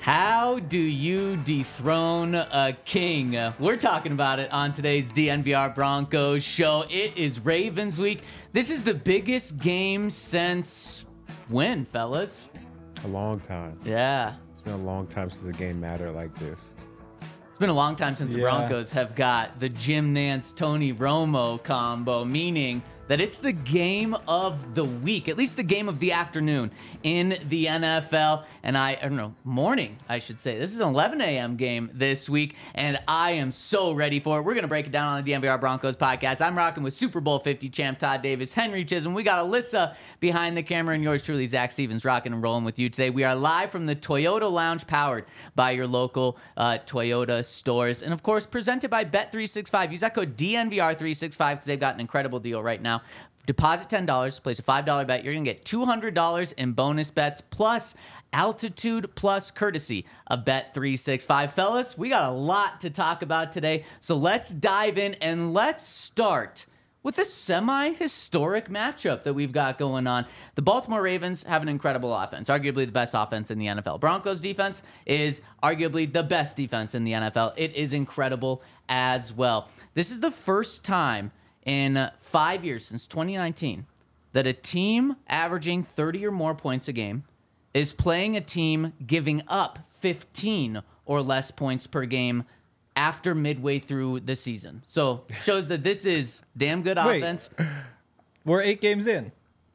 How do you dethrone a king? We're talking about it on today's DNVR Broncos show. It is Ravens week. This is the biggest game since when, fellas? A long time. Yeah. It's been a long time since a game mattered like this. It's been a long time since the Broncos have got the Jim Nantz, Tony Romo combo, meaning that it's the game of the week, at least the game of the afternoon in the NFL. And I don't know, morning, I should say. This is an 11 a.m. game this week, and I am so ready for it. We're going to break it down on the DNVR Broncos podcast. I'm rocking with Super Bowl 50 champ Todd Davis, Henry Chisholm. We got Alyssa behind the camera, and yours truly, Zach Stevens, rocking and rolling with you today. We are live from the Toyota Lounge, powered by your local Toyota stores. And, of course, presented by Bet365. Use that code DNVR365 because they've got an incredible deal right now. Deposit $10, place a $5 bet. You're going to get $200 in bonus bets plus altitude plus courtesy of Bet365. Fellas, we got a lot to talk about today, so let's dive in and let's start with a semi-historic matchup that we've got going on. The Baltimore Ravens have an incredible offense, arguably the best offense in the NFL. Broncos defense is arguably the best defense in the NFL. It is incredible as well. This is the first time in 5 years, since 2019, that a team averaging 30 or more points a game is playing a team giving up 15 or less points per game after midway through the season. So shows that this is damn good offense. We're 8 games in.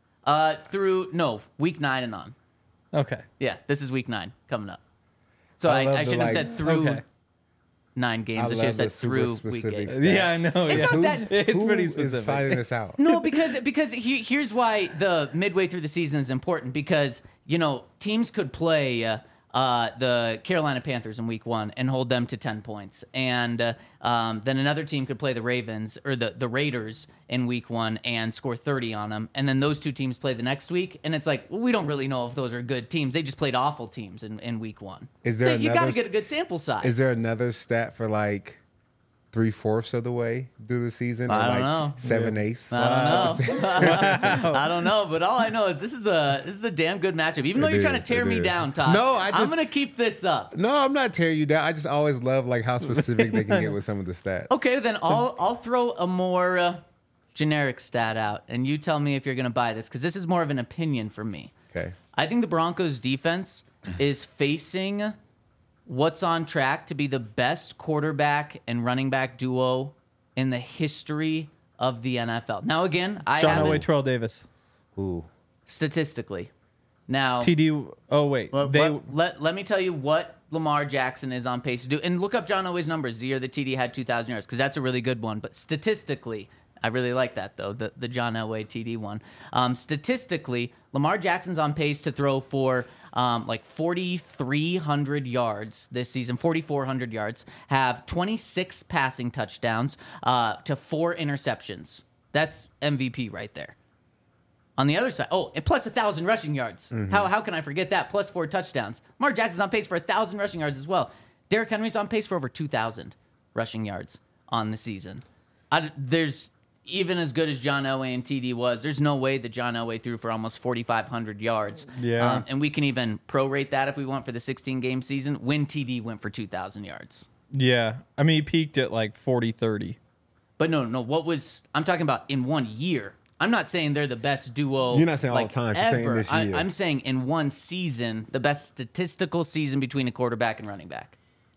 Week 9 and on. Okay. Yeah, this is week 9 coming up. So I shouldn't have said through 9 games. I should have said through week 8. Yeah, I know. It's not that. It's pretty Who is specific. finding this out? No, because here's why the midway through the season is important, because teams could play the Carolina Panthers in week 1 and hold them to 10 points, and then another team could play the Ravens or the Raiders in week 1 and score 30 on them, and then those two teams play the next week, and it's like, well, we don't really know if those are good teams. They just played awful teams in week 1. Is there you got to get a good sample size. Is there another stat for like 3/4 of the way through the season? I or don't like know. 7/8? I don't know. I don't know, but all I know is this is a damn good matchup. Even though you're trying to tear me down, Todd. No, I'm going to keep this up. No, I'm not tearing you down. I just always love like how specific they can get with some of the stats. Okay, then I'll throw a more generic stat out, and you tell me if you're going to buy this, because this is more of an opinion from me. Okay. I think the Broncos defense is facing what's on track to be the best quarterback and running back duo in the history of the NFL. Now, again, John Elway, Terrell Davis. Ooh. statistically. Now, TD. Oh wait, let me tell you what Lamar Jackson is on pace to do, and look up John Elway's numbers the year that TD had 2,000 yards, because that's a really good one. But statistically, I really like that though, the John Elway TD one. Statistically, Lamar Jackson's on pace to throw for like 4,300 yards this season, 4,400 yards, have 26 passing touchdowns to 4 interceptions. That's MVP right there. On the other side, and plus 1,000 rushing yards. Mm-hmm. How can I forget that? Plus 4 touchdowns. Lamar Jackson's on pace for 1,000 rushing yards as well. Derrick Henry's on pace for over 2,000 rushing yards on the season. There's, even as good as John Elway and TD was, there's no way that John Elway threw for almost 4,500 yards. Yeah. And we can even prorate that if we want for the 16-game season when TD went for 2,000 yards. Yeah. I mean, he peaked at like 40-30. But no, I'm talking about in 1 year. I'm not saying they're the best duo. You're not saying all the time. You're saying ever. this year. I'm saying in one season, the best statistical season between a quarterback and running back.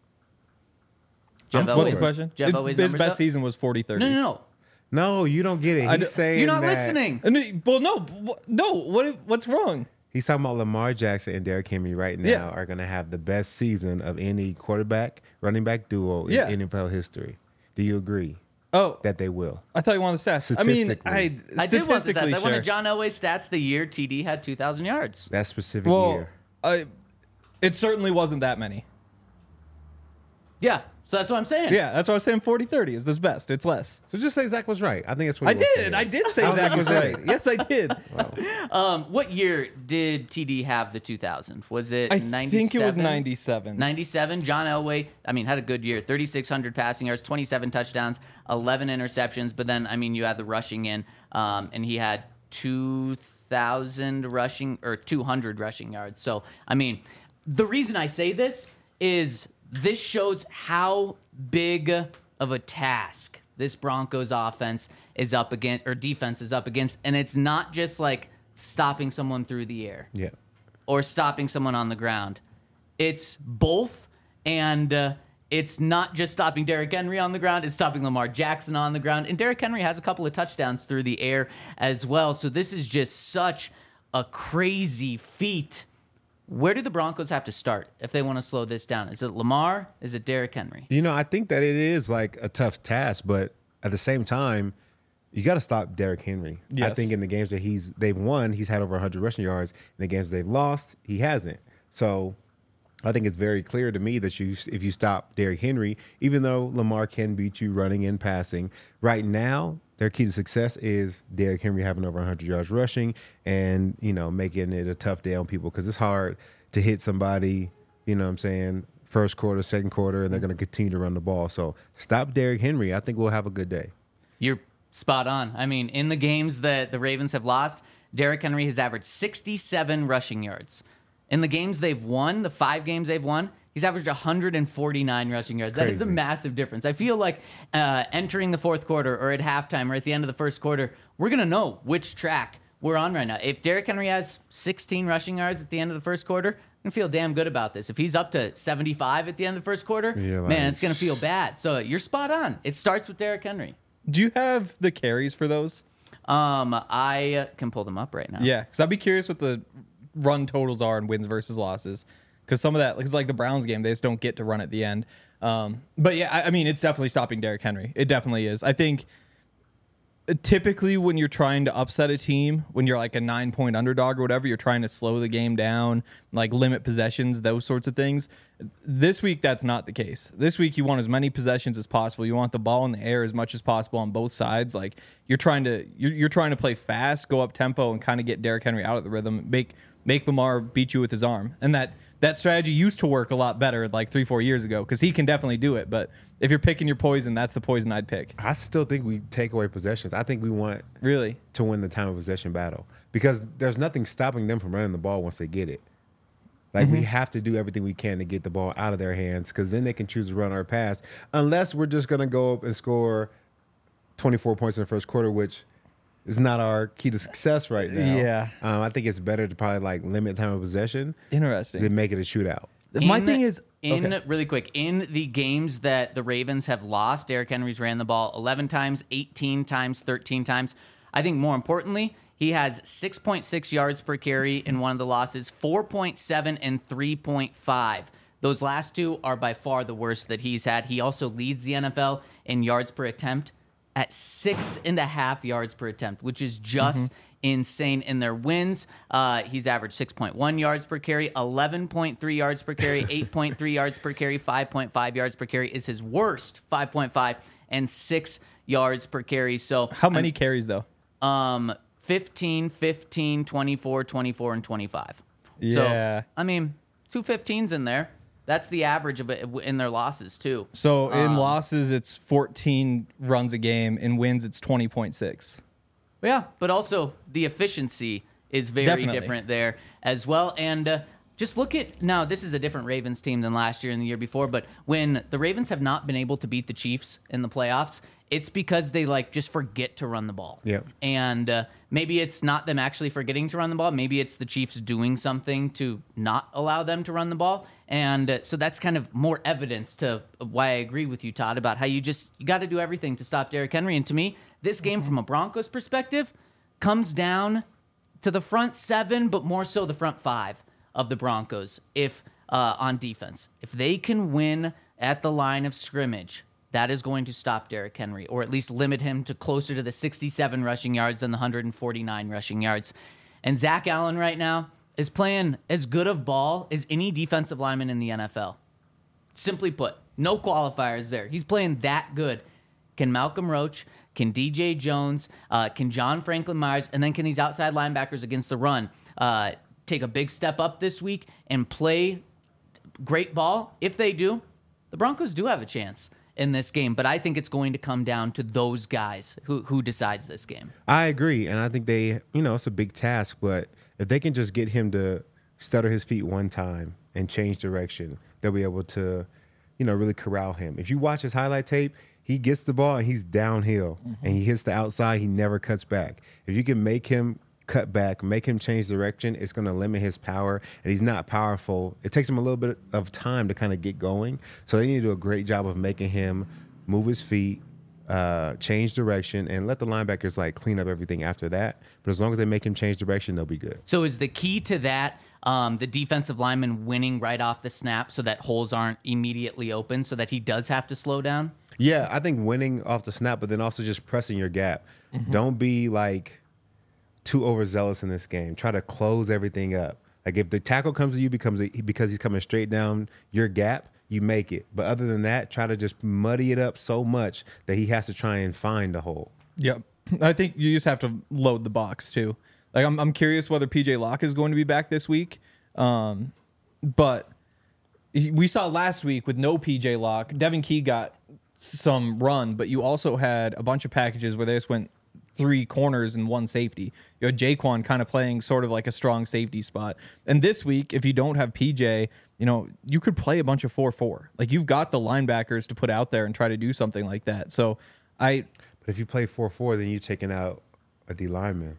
What's the question? His best up? season was 40-30. No. No, you don't get it. He's saying You're not that listening. Well, no. What's wrong? He's talking about Lamar Jackson and Derrick Henry right now are going to have the best season of any quarterback, running back duo in NFL history. Do you agree? Oh, that they will. I thought you wanted the stats. I mean, I did want the stats. Sure. I wanted John Elway's stats the year TD had 2,000 yards. That specific year. It certainly wasn't that many. Yeah, so that's what I'm saying. Yeah, that's what I was saying. 40-30 is this best. It's less. So just say Zach was right. I think that's what I did say Zach was right. Yes, I did. Wow. What year did TD have the 2,000? Was it 97? I think it was 97. 97. John Elway, had a good year. 3,600 passing yards, 27 touchdowns, 11 interceptions. But then, you had the rushing in, and he had 2,000 rushing or 200 rushing yards. So, the reason I say this is this shows how big of a task this Broncos offense is up against, or defense is up against, and it's not just like stopping someone through the air, or stopping someone on the ground. It's both, and it's not just stopping Derrick Henry on the ground, it's stopping Lamar Jackson on the ground, and Derrick Henry has a couple of touchdowns through the air as well. So this is just such a crazy feat. Where do the Broncos have to start if they want to slow this down? Is it Lamar? Is it Derrick Henry? I think that it is like a tough task, but at the same time, you got to stop Derrick Henry. Yes. I think in the games that they've won, he's had over 100 rushing yards. In the games they've lost, he hasn't. So I think it's very clear to me that if you stop Derrick Henry, even though Lamar can beat you running and passing, right now their key to success is Derrick Henry having over 100 yards rushing and, making it a tough day on people, because it's hard to hit somebody, first quarter, second quarter, and they're going to continue to run the ball. So stop Derrick Henry. I think we'll have a good day. You're spot on. I mean, in the games that the Ravens have lost, Derrick Henry has averaged 67 rushing yards. In the games they've won, the 5 games they've won, he's averaged 149 rushing yards. Crazy. That is a massive difference. I feel like entering the fourth quarter or at halftime or at the end of the first quarter, we're going to know which track we're on right now. If Derrick Henry has 16 rushing yards at the end of the first quarter, I'm going to feel damn good about this. If he's up to 75 at the end of the first quarter, man, it's going to feel bad. So you're spot on. It starts with Derrick Henry. Do you have the carries for those? I can pull them up right now. Yeah, because I'd be curious what the run totals are in wins versus losses, because some of that, it's like the Browns game, they just don't get to run at the end. But yeah, I mean, it's definitely stopping Derrick Henry. It definitely is. I think typically when you're trying to upset a team, when you're like a 9-point underdog or whatever, you're trying to slow the game down, like limit possessions, those sorts of things. This week, that's not the case. This week, you want as many possessions as possible. You want the ball in the air as much as possible on both sides. Like you're trying to play fast, go up tempo, and kind of get Derrick Henry out of the rhythm, make Lamar beat you with his arm. And that strategy used to work a lot better like 3-4 years ago, because he can definitely do it. But if you're picking your poison, that's the poison I'd pick. I still think we take away possessions. I think we want really to win the time of possession battle, because there's nothing stopping them from running the ball once they get it. Like we have to do everything we can to get the ball out of their hands, because then they can choose to run or pass, unless we're just going to go up and score 24 points in the first quarter, which is not our key to success right now. Yeah. I think it's better to probably like limit time of possession. Interesting. Than make it a shootout. My thing is, really quick, in the games that the Ravens have lost, Derrick Henry's ran the ball 11 times, 18 times, 13 times. I think more importantly, he has 6.6 yards per carry in one of the losses, 4.7 and 3.5. Those last two are by far the worst that he's had. He also leads the NFL in yards per attempt at 6.5 yards per attempt, which is just insane. In their wins, he's averaged 6.1 yards per carry, 11.3 yards per carry, 8.3 yards per carry, 5.5 yards per carry is his worst, 5.5, and 6 yards per carry. So how many carries though? 15, 15, 24, 24, and 25. Yeah. So, I mean, 2 15s in there. That's the average of it in their losses, too. So in losses, it's 14 runs a game. In wins, it's 20.6. Yeah, but also the efficiency is very different there as well. And just look at, now this is a different Ravens team than last year and the year before, but when the Ravens have not been able to beat the Chiefs in the playoffs, it's because they just forget to run the ball. Yeah. And maybe it's not them actually forgetting to run the ball. Maybe it's the Chiefs doing something to not allow them to run the ball. And so that's kind of more evidence to why I agree with you, Todd, about how you got to do everything to stop Derrick Henry. And to me, this game from a Broncos perspective comes down to the front 7, but more so the front 5 of the Broncos on defense. If they can win at the line of scrimmage, that is going to stop Derrick Henry, or at least limit him to closer to the 67 rushing yards than the 149 rushing yards. And Zach Allen right now is playing as good of ball as any defensive lineman in the NFL. Simply put, no qualifiers there. He's playing that good. Can Malcolm Roach, can DJ Jones, can John Franklin Myers, and then can these outside linebackers against the run take a big step up this week and play great ball? If they do, the Broncos do have a chance in this game, but I think it's going to come down to those guys who decides this game. I agree, and I think it's a big task, but if they can just get him to stutter his feet one time and change direction, they'll be able to, really corral him. If you watch his highlight tape, he gets the ball and he's downhill and he hits the outside. He never cuts back. If you can make him cut back, make him change direction, it's going to limit his power, and he's not powerful. It takes him a little bit of time to kind of get going. So they need to do a great job of making him move his feet, change direction, and let the linebackers clean up everything after that. But as long as they make him change direction, they'll be good. So is the key to that the defensive lineman winning right off the snap so that holes aren't immediately open, so that he does have to slow down? Yeah, I think winning off the snap, but then also just pressing your gap. Don't be too overzealous in this game. Try to close everything up. If the tackle comes to you because he's coming straight down your gap, you make it. But other than that, try to just muddy it up so much that he has to try and find a hole. Yep. I think you just have to load the box too. I'm curious whether PJ Locke is going to be back this week. But we saw last week with no PJ Locke, Devin Key got some run, but you also had a bunch of packages where they just went 3 corners and 1 safety. You had Jaquan kind of playing sort of like a strong safety spot. And this week, if you don't have PJ, you could play a bunch of 4-4. You've got the linebackers to put out there and try to do something like that. So But if you play 4-4, then you're taking out a D lineman.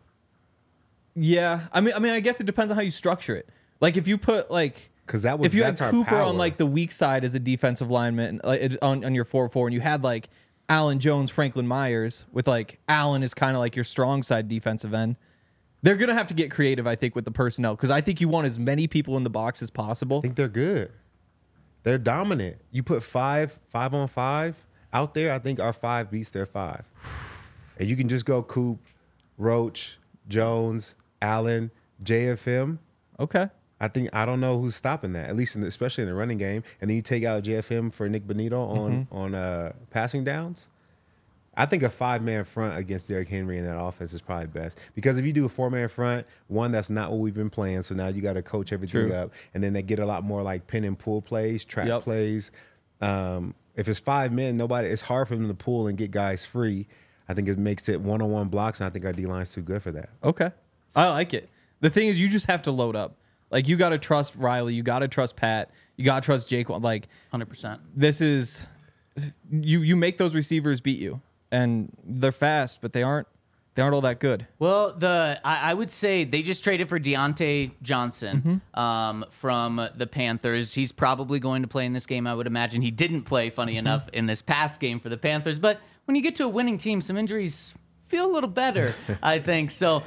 Yeah. I mean, I guess it depends on how you structure it. If you put because if you had Cooper on the weak side as a defensive lineman on your 4-4, and you had Allen Jones, Franklin Myers, with Allen is kind of your strong side defensive end. They're going to have to get creative, I think, with the personnel, because I think you want as many people in the box as possible. I think they're good. They're dominant. You put 5 on 5 out there, I think our 5 beats their 5. And you can just go Coop, Roach, Jones, Allen, JFM. Okay. I don't know who's stopping that, at least especially in the running game. And then you take out JFM for Nick Benito on passing downs. I think a 5-man front against Derrick Henry in that offense is probably best, because if you do a 4-man front, one, that's not what we've been playing. So now you got to coach everything up, and then they get a lot more pin and pull plays, trap plays. If it's 5 men, it's hard for them to pull and get guys free. I think it makes it one-on-one blocks, and I think our D-line's too good for that. Okay. I like it. The thing is, you just have to load up. You got to trust Riley. You got to trust Pat. You got to trust Jake. 100%. This is you make those receivers beat you, and they're fast, but they aren't all that good. Well, I would say they just traded for Deontay Johnson from the Panthers. He's probably going to play in this game. I would imagine he didn't play, funny enough, in this past game for the Panthers. But when you get to a winning team, some injuries feel a little better, I think. So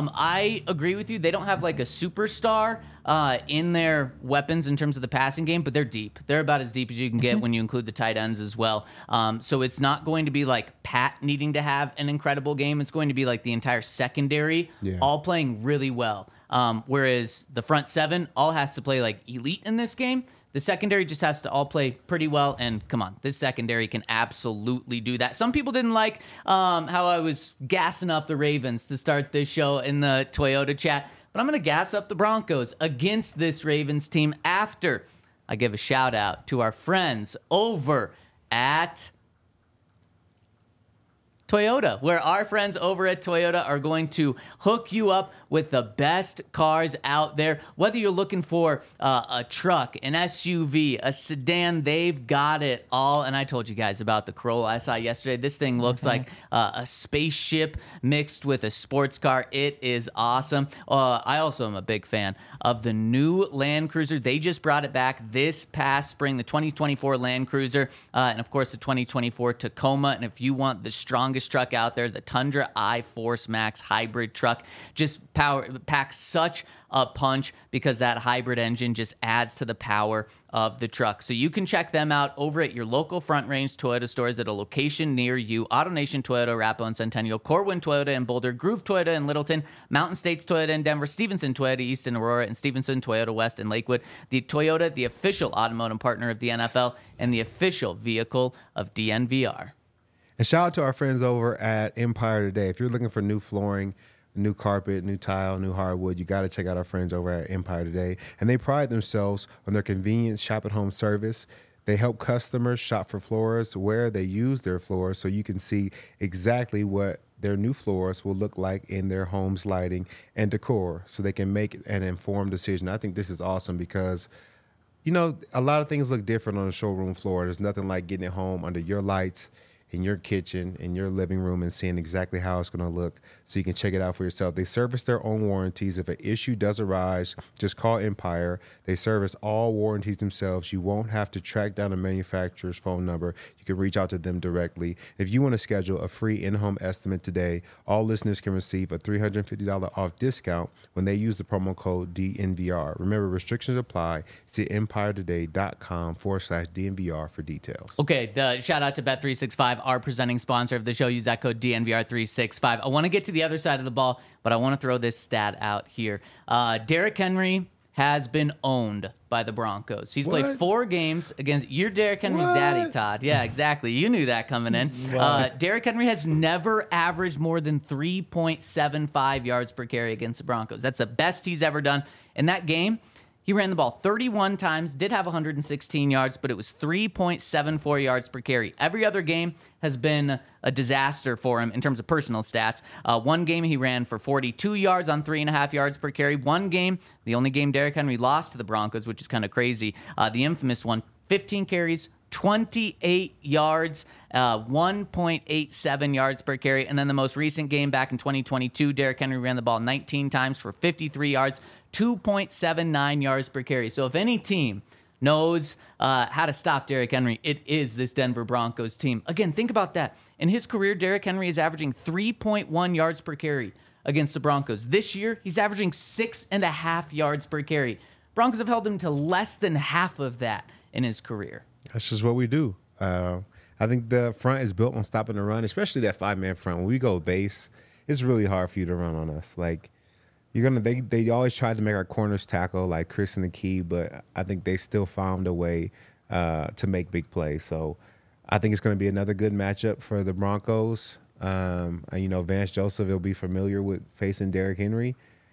I agree with you. They don't have a superstar in their weapons in terms of the passing game, but they're deep. They're about as deep as you can get when you include the tight ends as well. So it's not going to be Pat needing to have an incredible game. It's going to be the entire secondary all playing really well. Whereas the front 7 all has to play elite in this game. The secondary just has to all play pretty well, and come on, this secondary can absolutely do that. Some people didn't like how I was gassing up the Ravens to start this show in the Toyota chat, but I'm going to gas up the Broncos against this Ravens team after I give a shout out to our friends over at Toyota, where our friends over at Toyota are going to hook you up with the best cars out there. Whether you're looking for a truck, an SUV, a sedan, they've got it all. And I told you guys about the Corolla I saw yesterday. This thing looks like a spaceship mixed with a sports car. It is awesome. I also am a big fan of the new Land Cruiser. They just brought it back this past spring, the 2024 Land Cruiser, and of course the 2024 Tacoma. And if you want the strongest truck out there, the Tundra iForce Max hybrid truck just packs such a punch because that hybrid engine just adds to the power of the truck. So you can check them out over at your local Front Range Toyota stores at a location near you. AutoNation Toyota, Arapahoe and Centennial, Corwin Toyota in Boulder, Groove Toyota in Littleton, Mountain States Toyota in Denver, Stevenson Toyota East in Aurora, and Stevenson Toyota West in Lakewood. The Toyota, the official automotive partner of the NFL and the official vehicle of DNVR. And shout out to our friends over at Empire Today. If you're looking for new flooring, new carpet, new tile, new hardwood, you got to check out our friends over at Empire Today. And they pride themselves on their convenient shop-at-home service. They help customers shop for floors where they use their floors so you can see exactly what their new floors will look like in their home's lighting and decor so they can make an informed decision. I think this is awesome because a lot of things look different on the showroom floor. There's nothing like getting it home under your lights, in your kitchen, in your living room, and seeing exactly how it's going to look so you can check it out for yourself. They service their own warranties. If an issue does arise, just call Empire. They service all warranties themselves. You won't have to track down a manufacturer's phone number. You can reach out to them directly. If you want to schedule a free in-home estimate today, all listeners can receive a $350 off discount when they use the promo code DNVR. Remember, restrictions apply. See empiretoday.com/DNVR for details. Okay, shout out to Bet365, our presenting sponsor of the show. Use that code DNVR365. I want to get to the other side of the ball, but I want to throw this stat out here. Derrick Henry has been owned by the Broncos. He's played 4 games against... You're Derrick Henry's daddy, Todd. Yeah, exactly. You knew that coming in. Derrick Henry has never averaged more than 3.75 yards per carry against the Broncos. That's the best he's ever done. In that game, he ran the ball 31 times, did have 116 yards, but it was 3.74 yards per carry. Every other game has been a disaster for him in terms of personal stats. One game he ran for 42 yards on 3.5 yards per carry. One game, the only game Derrick Henry lost to the Broncos, which is kind of crazy, the infamous one, 15 carries, 28 yards, 1.87 yards per carry. And then the most recent game back in 2022, Derrick Henry ran the ball 19 times for 53 yards, 2.79 yards per carry. So if any team knows how to stop Derrick Henry, it is this Denver Broncos team. Again, think about that. In his career, Derrick Henry is averaging 3.1 yards per carry against the Broncos. This year, he's averaging 6.5 yards per carry. Broncos have held him to less than half of that in his career. That's just what we do. I think the front is built on stopping the run, especially that 5-man front. When we go base, it's really hard for you to run on us. Like, they always tried to make our corners tackle, like Chris and the Key, but I think they still found a way to make big plays. So I think it's going to be another good matchup for the Broncos. And, Vance Joseph will be familiar with facing Derrick Henry.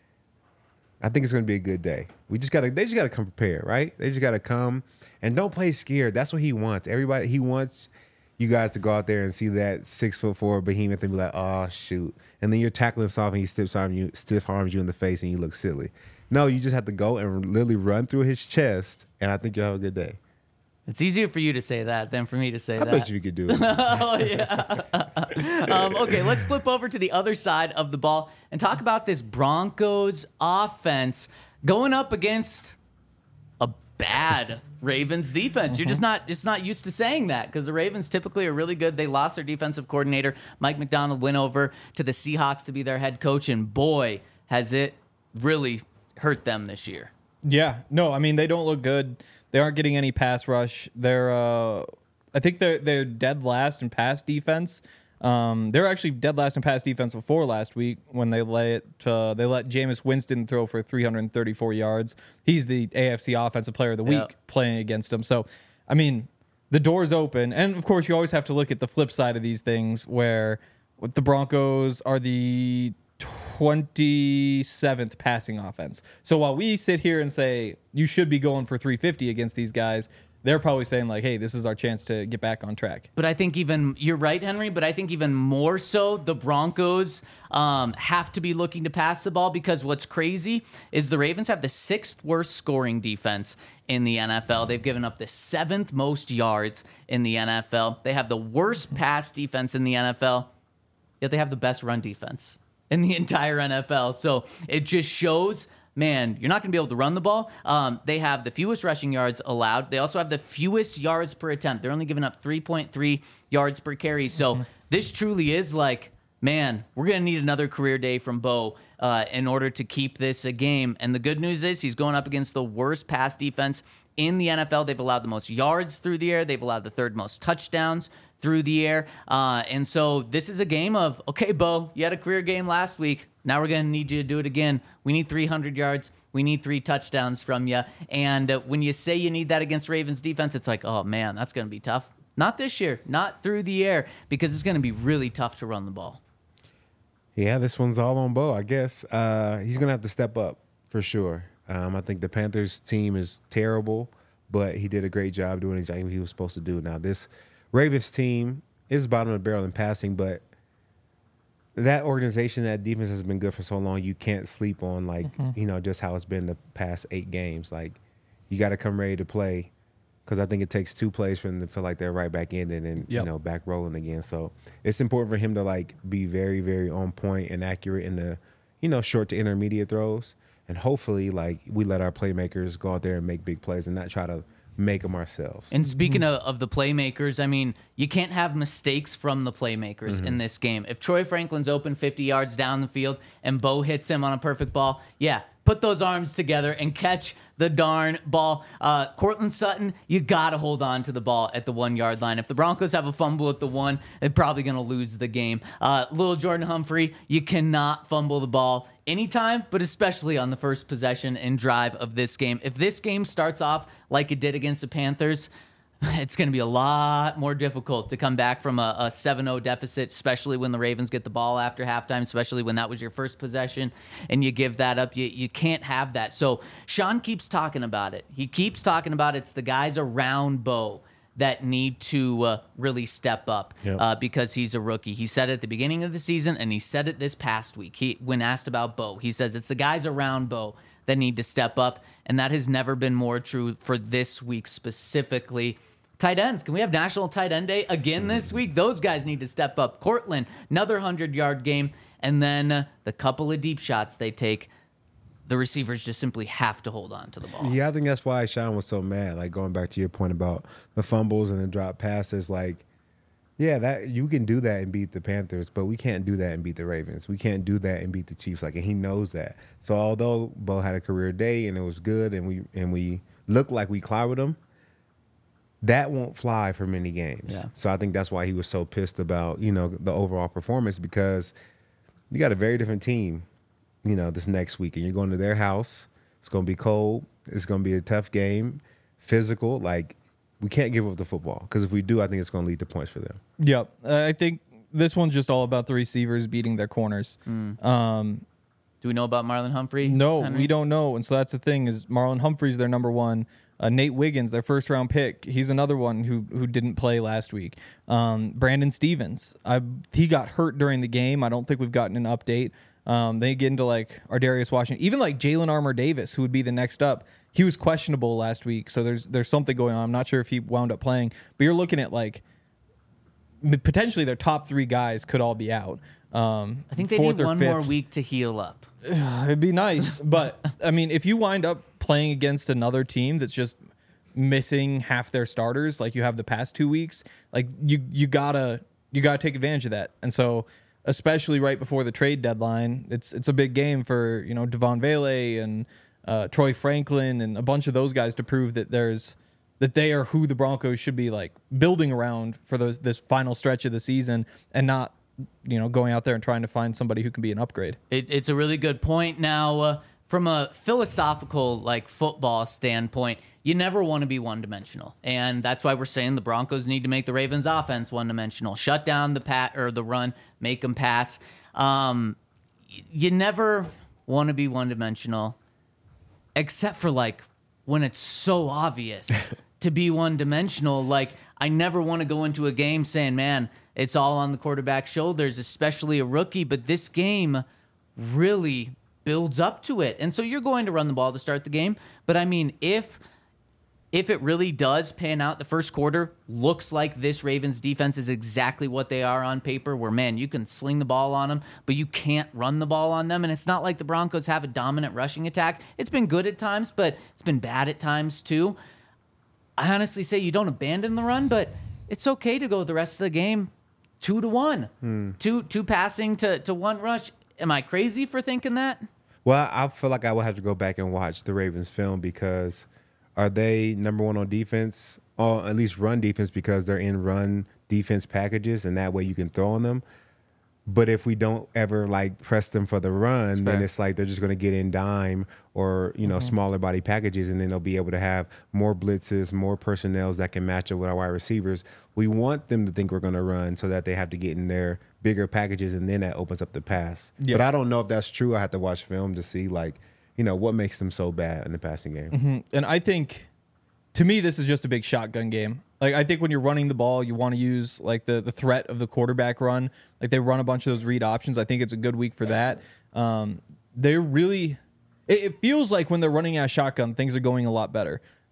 I think it's going to be a good day. They just got to come prepared, right? They just got to come and don't play scared. That's what he wants. He wants you guys to go out there and see that 6'4" behemoth and be like, oh shoot. And then you're tackling soft and he stiff arms you in the face and you look silly. No, you just have to go and literally run through his chest, and I think you'll have a good day. It's easier for you to say that than for me to say I that. bet you could do it. Oh, yeah. Okay, let's flip over to the other side of the ball and talk about this Broncos offense going up against a bad Ravens defense. You're just not used to saying that because the Ravens typically are really good. They lost their defensive coordinator. Mike McDonald went over to the Seahawks to be their head coach, and boy, has it really hurt them this year. Yeah. No, I mean, they don't look good. They aren't getting any pass rush. I think they're dead last in pass defense. They were actually dead last in pass defense before last week when they let Jameis Winston throw for 334 yards. He's the AFC Offensive Player of the Week playing against them. So, I mean, the door's open. And, of course, you always have to look at the flip side of these things where the Broncos are the 27th passing offense. So while we sit here and say you should be going for 350 against these guys, they're probably saying like, hey, this is our chance to get back on track. But I think you're right, Henry, but I think even more so the Broncos have to be looking to pass the ball because what's crazy is the Ravens have the 6th worst scoring defense in the NFL. They've given up the 7th most yards in the NFL. They have the worst pass defense in the NFL, yet they have the best run defense in the entire NFL. So it just shows, man, you're not going to be able to run the ball. They have the fewest rushing yards allowed. They also have the fewest yards per attempt. They're only giving up 3.3 yards per carry. So this truly is like, man, we're going to need another career day from Bo in order to keep this a game. And the good news is he's going up against the worst pass defense in the NFL. They've allowed the most yards through the air. They've allowed the 3rd most touchdowns through the air. And so this is a game of, okay, Bo, you had a career game last week. Now we're going to need you to do it again. We need 300 yards. We need 3 touchdowns from you. And when you say you need that against Ravens defense, it's like, oh, man, that's going to be tough. Not this year, not through the air, because it's going to be really tough to run the ball. Yeah, this one's all on Bo, I guess. He's going to have to step up for sure. I think the Panthers team is terrible, but he did a great job doing exactly what he was supposed to do. Now, this Ravens team is bottom of the barrel in passing, but that organization, that defense has been good for so long. You can't sleep on just how it's been the past 8 games. Like you got to come ready to play. Because I think it takes 2 plays for them to feel like they're right back in it and back rolling again. So it's important for him to like be very, very on point and accurate in the short to intermediate throws. And hopefully, like, we let our playmakers go out there and make big plays and not try to make them ourselves. And speaking of the playmakers, I mean, you can't have mistakes from the playmakers in this game. If Troy Franklin's open 50 yards down the field and Bo hits him on a perfect ball, put those arms together and catch the darn ball. Cortland Sutton, you got to hold on to the ball at the 1 yard line. If the Broncos have a fumble at the 1, they're probably going to lose the game. Little Jordan Humphrey, you cannot fumble the ball anytime, but especially on the first possession and drive of this game. If this game starts off like it did against the Panthers, it's going to be a lot more difficult to come back from a 7-0 deficit, especially when the Ravens get the ball after halftime, especially when that was your first possession and you give that up. You can't have that. So Sean keeps talking about it. He keeps talking about it's the guys around Bo that need to really step up because he's a rookie. He said it at the beginning of the season, and he said it this past week. When asked about Bo, he says it's the guys around Bo that need to step up, and that has never been more true for this week specifically. Tight ends. Can we have National Tight End Day again this week? Those guys need to step up. Cortland, another 100-yard game, and then the couple of deep shots they take, the receivers just simply have to hold on to the ball. Yeah, I think that's why Sean was so mad. Like, going back to your point about the fumbles and the drop passes, like, that you can do that and beat the Panthers, but we can't do that and beat the Ravens. We can't do that and beat the Chiefs. Like, and he knows that. So although Bo had a career day and it was good and we looked like we clobbered him, that won't fly for many games. Yeah. So I think that's why he was so pissed about, the overall performance, because you got a very different team, this next week. And you're going to their house. It's going to be cold. It's going to be a tough game, physical. Like, we can't give up the football, because if we do, I think it's going to lead to points for them. Yep. I think this one's just all about the receivers beating their corners. Do we know about Marlon Humphrey? No, Henry? we don't know. And so that's the thing, is Marlon Humphrey's their number one. Nate Wiggins, their first-round pick, he's another one who didn't play last week. Brandon Stevens, he got hurt during the game. I don't think we've gotten an update. They get into like Ardarius Washington, even like Jalen Armour Davis, who would be the next up. He was questionable last week, so there's something going on. I'm not sure if he wound up playing, but you're looking at like potentially their top 3 guys could all be out. I think they need one more week to heal up. It'd be nice, but I mean, if you wind up playing against another team that's just missing half their starters, like you have the past 2 weeks, like you gotta take advantage of that. And so, especially right before the trade deadline, it's a big game for Devon Vele and Troy Franklin and a bunch of those guys to prove that they are who the Broncos should be like building around for this final stretch of the season, and not going out there and trying to find somebody who can be an upgrade. It's a really good point. Now, from a philosophical, like, football standpoint, you never want to be one-dimensional. And that's why we're saying the Broncos need to make the Ravens' offense one-dimensional. Shut down the run, make them pass. You never want to be one-dimensional, except for, like, when it's so obvious to be one-dimensional. Like, I never want to go into a game saying, man, it's all on the quarterback's shoulders, especially a rookie. But this game really builds up to it. And so you're going to run the ball to start the game. But, I mean, if it really does pan out, the first quarter looks like this Ravens defense is exactly what they are on paper, where, man, you can sling the ball on them, but you can't run the ball on them. And it's not like the Broncos have a dominant rushing attack. It's been good at times, but it's been bad at times too. I honestly say you don't abandon the run, but it's okay to go the rest of the game 2-1. Two passing to 1 rush. Am I crazy for thinking that? Well, I feel like I would have to go back and watch the Ravens film, because are they number 1 on defense, or at least run defense, because they're in run defense packages, and that way you can throw on them. But if we don't ever like press them for the run, then it's like they're just going to get in dime or smaller body packages, and then they'll be able to have more blitzes, more personnels that can match up with our wide receivers. We want them to think we're going to run, so that they have to get in their bigger packages, and then that opens up the pass. Yep. But I don't know if that's true. I have to watch film to see what makes them so bad in the passing game. Mm-hmm. And I think, to me, this is just a big shotgun game. Like, I think when you're running the ball, you want to use like the threat of the quarterback run. Like, they run a bunch of those read options. I think it's a good week for that. They're really, it feels like when they're running out shotgun, things are going a lot better.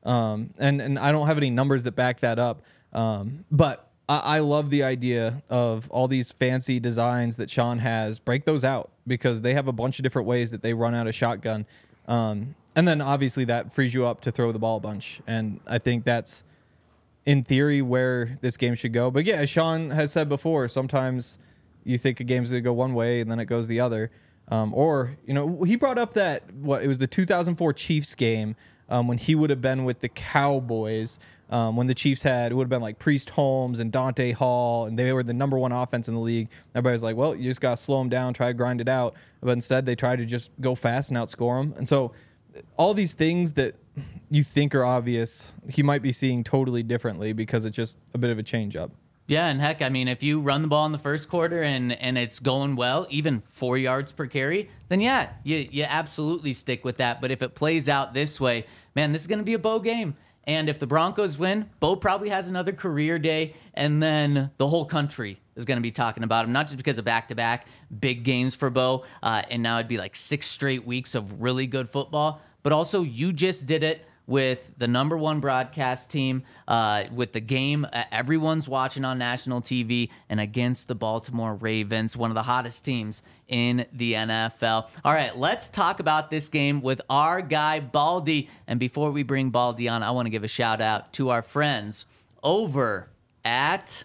And I don't have any numbers that back that up. But I love the idea of all these fancy designs that Sean has. Break those out because they have a bunch of different ways that they run out of shotgun. And then obviously that frees you up to throw the ball a bunch. And I think that's in theory where this game should go. But yeah, as Sean has said before, sometimes you think a game's going to go one way and then it goes the other. Or, he brought up that it was the 2004 Chiefs game when he would have been with the Cowboys, when the Chiefs it would have been like Priest Holmes and Dante Hall, and they were the number one offense in the league. Everybody's like, well, you just got to slow them down, try to grind it out. But instead, they try to just go fast and outscore them. And so all these things that you think are obvious, he might be seeing totally differently because it's just a bit of a change up. Yeah, and heck, I mean, if you run the ball in the first quarter and it's going well, even 4 yards per carry, then yeah, you absolutely stick with that. But if it plays out this way, man, this is going to be a Bo game. And if the Broncos win, Bo probably has another career day, and then the whole country is going to be talking about him, not just because of back-to-back big games for Bo, and now it'd be like 6 straight weeks of really good football, but also you just did it with the number one broadcast team, with the game everyone's watching on national TV, and against the Baltimore Ravens, one of the hottest teams in the NFL. All right, let's talk about this game with our guy, Baldy. And before we bring Baldy on, I want to give a shout out to our friends over at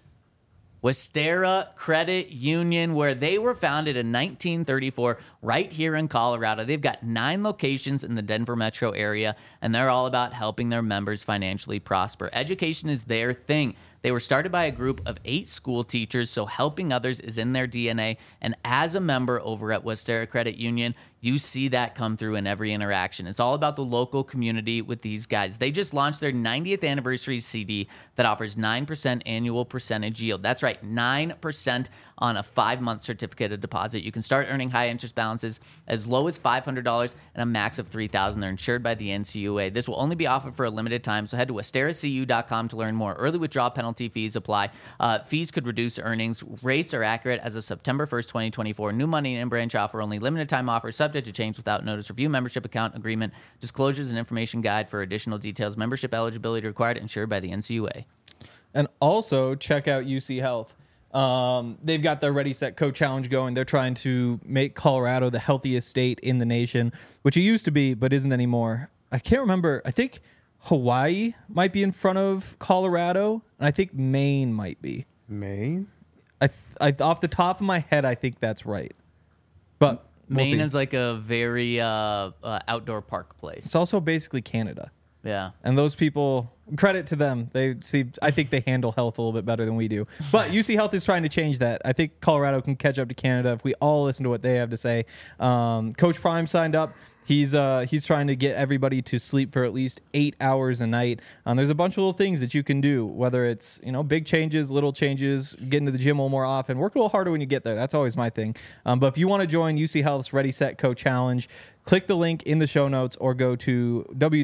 Westera Credit Union, where they were founded in 1934 right here in Colorado. They've got 9 locations in the Denver metro area, and they're all about helping their members financially prosper. Education is their thing. They were started by a group of 8 school teachers, so helping others is in their DNA. And as a member over at Westera Credit Union, you see that come through in every interaction. It's all about the local community with these guys. They just launched their 90th anniversary CD that offers 9% annual percentage yield. That's right, 9% on a 5-month certificate of deposit. You can start earning high interest balances as low as $500 and a max of $3,000. They're insured by the NCUA. This will only be offered for a limited time, so head to WesteraCU.com to learn more. Early withdrawal penalty fees apply. Fees could reduce earnings. Rates are accurate as of September 1st, 2024. New money and in-branch offer only. Limited time offer subject to change without notice. Review membership account agreement, disclosures and information guide for additional details. Membership eligibility required, insured by the NCUA. And also check out UC Health. They've got their Ready, Set, Co challenge going. They're trying to make Colorado the healthiest state in the nation, which it used to be, but isn't anymore. I can't remember. I think Hawaii might be in front of Colorado, and I think Maine might be. Maine? I off the top of my head, I think that's right. But Maine is like a very outdoor park place. It's also basically Canada. Yeah. And those people, credit to them. I think they handle health a little bit better than we do. But UC Health is trying to change that. I think Colorado can catch up to Canada if we all listen to what they have to say. Coach Prime signed up. He's trying to get everybody to sleep for at least 8 hours a night. There's a bunch of little things that you can do, whether it's big changes, little changes, getting to the gym a little more often. Work a little harder when you get there. That's always my thing. But if you want to join UC Health's Ready, Set, Co challenge, click the link in the show notes or go to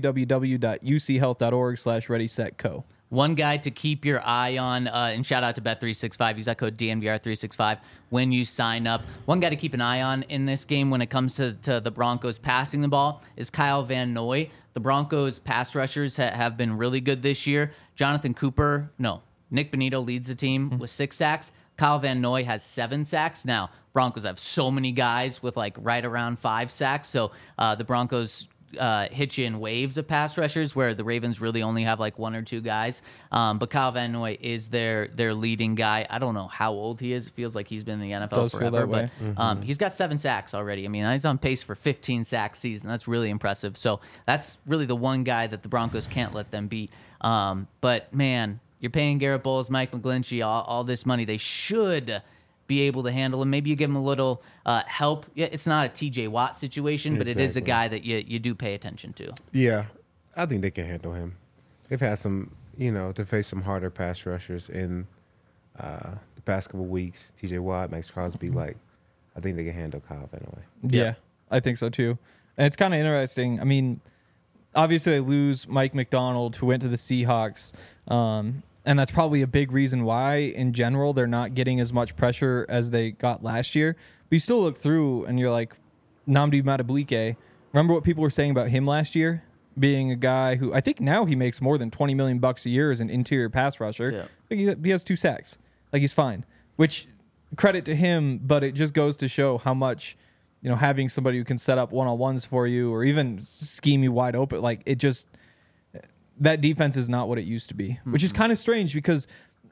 www.uchealth.org/readysetco. One guy to keep your eye on, and shout out to Bet365. Use that code DNVR365 when you sign up. One guy to keep an eye on in this game when it comes to the Broncos passing the ball is Kyle Van Noy. The Broncos pass rushers have been really good this year. Nick Bonito leads the team with 6 sacks. Kyle Van Noy has 7 sacks. Now, Broncos have so many guys with like right around 5 sacks. So the Broncos hit you in waves of pass rushers where the Ravens really only have like 1 or 2 guys. But Kyle Van Noy is their leading guy. I don't know how old he is. It feels like he's been in the NFL forever, but he's got 7 sacks already. I mean, he's on pace for 15 sack season. That's really impressive. So that's really the one guy that the Broncos can't let them beat. But man, you're paying Garrett Bowles, Mike McGlinchey, all this money. They should be able to handle him. Maybe you give him a little help. Yeah, it's not a TJ Watt situation, but it is a guy that you do pay attention to. Yeah, I think they can handle him. They've had some, to face some harder pass rushers in the past couple weeks. TJ Watt, Max Crosby, I think they can handle Kyle Van Noy. Yeah, I think so too. And it's kind of interesting. I mean, obviously they lose Mike McDonald, who went to the Seahawks. And that's probably a big reason why, in general, they're not getting as much pressure as they got last year. But you still look through and you're like, Nnamdi Madubuike, remember what people were saying about him last year? being a guy who I think now he makes more than $20 million a year as an interior pass rusher. Yeah. He has 2 sacks. Like, he's fine, which credit to him, but it just goes to show how much, having somebody who can set up one-on-ones for you or even scheme you wide open, like, it just, that defense is not what it used to be, which is kind of strange because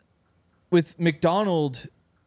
with McDonald,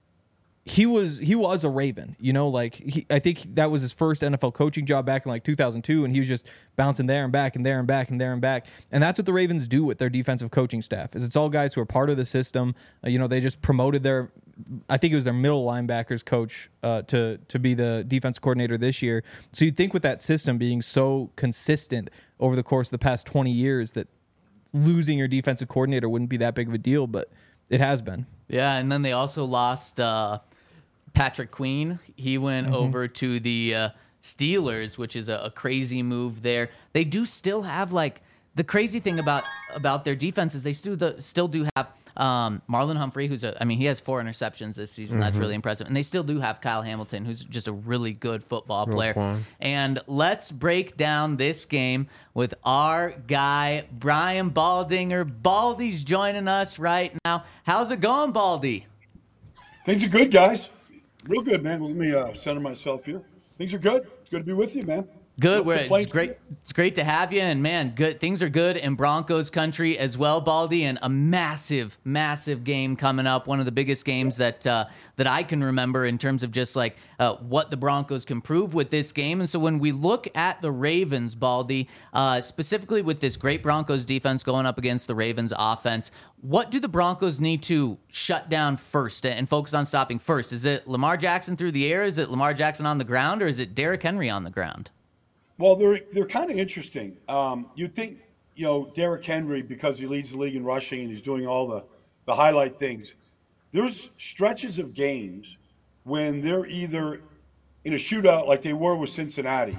he was a Raven, I think that was his first NFL coaching job back in like 2002, and he was just bouncing there and back and there and back and there and back. And that's what the Ravens do with their defensive coaching staff, is it's all guys who are part of the system. They just promoted I think it was their middle linebackers coach to be the defense coordinator this year. So you'd think with that system being so consistent over the course of the past 20 years that losing your defensive coordinator wouldn't be that big of a deal, but it has been. Yeah, and then they also lost Patrick Queen. He went over to the Steelers, which is a crazy move there. They do still have, like, the crazy thing about their defense is they still do have Marlon Humphrey, he has 4 interceptions this season. That's really impressive. And they still do have Kyle Hamilton, who's just a really good football player. And let's break down this game with our guy, Brian Baldinger. Baldy's joining us right now. How's it going, Baldy? Things are good, guys. Real good, man. Let me center myself here. Things are good. It's good to be with you, man. Good. It's great. It's great to have you. And man, good things are good in Broncos country as well, Baldy. And a massive, massive game coming up. One of the biggest games that I can remember in terms of just like what the Broncos can prove with this game. And so when we look at the Ravens, Baldy, specifically with this great Broncos defense going up against the Ravens offense, what do the Broncos need to shut down first and focus on stopping first? Is it Lamar Jackson through the air? Is it Lamar Jackson on the ground? Or is it Derrick Henry on the ground? Well, they're kind of interesting. You'd think, Derrick Henry, because he leads the league in rushing and he's doing all the highlight things. There's stretches of games when they're either in a shootout like they were with Cincinnati,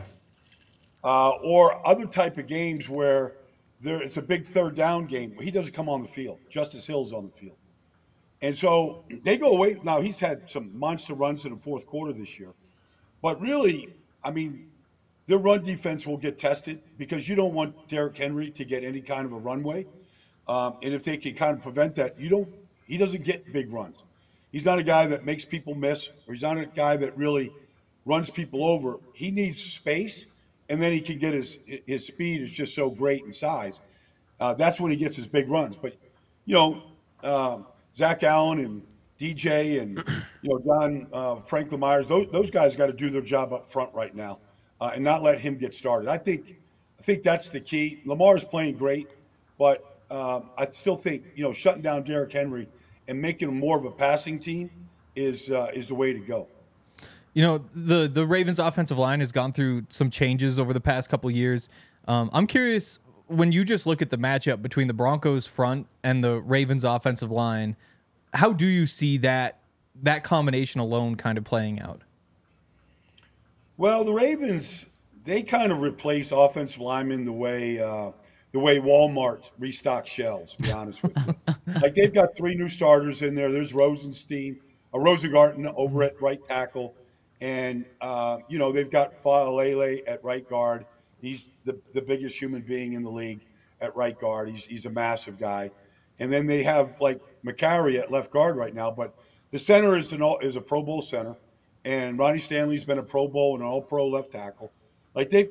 or other type of games where it's a big third down game. He doesn't come on the field. Justice Hill's on the field. And so they go away. Now, he's had some monster runs in the fourth quarter this year. But really, their run defense will get tested because you don't want Derrick Henry to get any kind of a runway. And if they can kind of prevent that, he doesn't get big runs. He's not a guy that makes people miss, or he's not a guy that really runs people over. He needs space, and then he can get his speed is just so great in size. That's when he gets his big runs. But, Zach Allen and DJ and, John Franklin Myers, those guys got to do their job up front right now. And not let him get started. I think that's the key. Lamar's playing great, but I still think shutting down Derrick Henry and making him more of a passing team is the way to go. The Ravens offensive line has gone through some changes over the past couple of years. I'm curious, when you just look at the matchup between the Broncos front and the Ravens offensive line, how do you see that combination alone kind of playing out? Well, the Ravens, they kind of replace offensive linemen the way Walmart restocks shelves, to be honest with you. Like, they've got 3 new starters in there. There's Rosengarten over at right tackle. And, they've got Faalele at right guard. He's the biggest human being in the league at right guard. He's a massive guy. And then they have, like, McCary at left guard right now. But the center is a Pro Bowl center. And Ronnie Stanley's been a Pro Bowl and an All-Pro left tackle. They've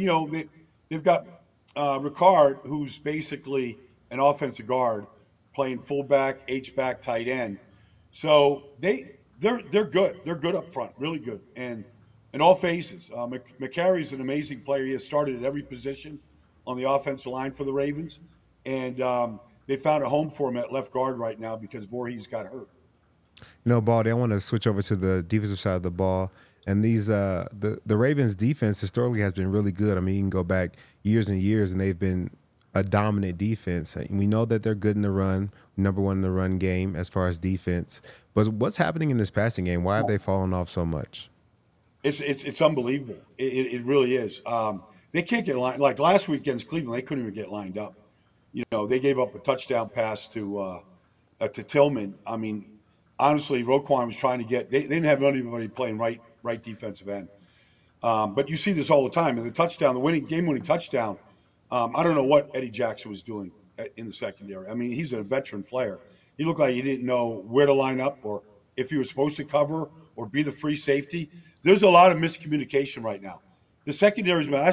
got Ricard, who's basically an offensive guard, playing fullback, H-back, tight end. So they're good. They're good up front, really good, and in all phases. McCary's an amazing player. He has started at every position on the offensive line for the Ravens, and they found a home for him at left guard right now because Voorhees got hurt. Baldy, I want to switch over to the defensive side of the ball. And these the Ravens defense historically has been really good. You can go back years and years, and they've been a dominant defense. We know that they're good in the run, number 1 in the run game as far as defense. But what's happening in this passing game? Why have they fallen off so much? It's unbelievable. It really is. They can't get lined. Like last week against Cleveland, they couldn't even get lined up. They gave up a touchdown pass to Tillman. Honestly, Roquan was trying to get. They didn't have anybody playing right defensive end. But you see this all the time. And the winning touchdown, I don't know what Eddie Jackson was doing in the secondary. I mean, he's a veteran player. He looked like he didn't know where to line up or if he was supposed to cover or be the free safety. There's a lot of miscommunication right now. The secondaries, man.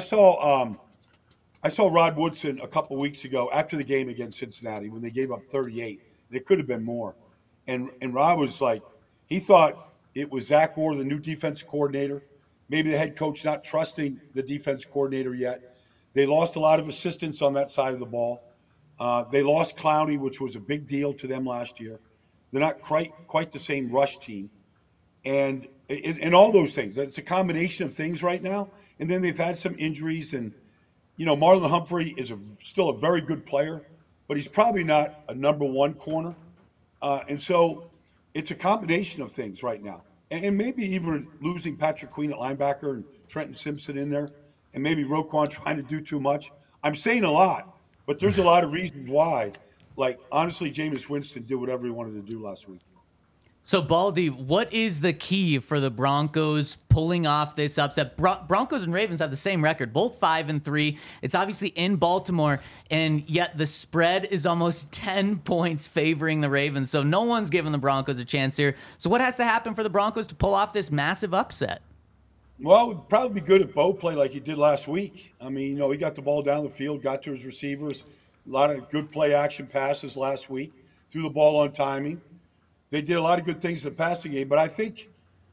I saw Rod Woodson a couple weeks ago after the game against Cincinnati when they gave up 38. And it could have been more. And Rod was like, he thought it was Zach Orr, the new defensive coordinator, maybe the head coach not trusting the defense coordinator yet. They lost a lot of assistants on that side of the ball. They lost Clowney, which was a big deal to them last year. They're not quite the same rush team. And all those things. It's a combination of things right now. And then they've had some injuries. And, Marlon Humphrey is still a very good player, but he's probably not a number one corner. And so it's a combination of things right now. And maybe even losing Patrick Queen at linebacker and Trenton Simpson in there, and maybe Roquan trying to do too much. I'm saying a lot, but there's a lot of reasons why. Like, honestly, Jameis Winston did whatever he wanted to do last week. So, Baldy, what is the key for the Broncos pulling off this upset? Broncos and Ravens have the same record, both 5-3. It's obviously in Baltimore, and yet the spread is almost 10 points favoring the Ravens. So no one's giving the Broncos a chance here. So what has to happen for the Broncos to pull off this massive upset? Well, it would probably be good if Bo played like he did last week. I mean, he got the ball down the field, got to his receivers, a lot of good play action passes last week, threw the ball on timing. They did a lot of good things in the passing game, but I think,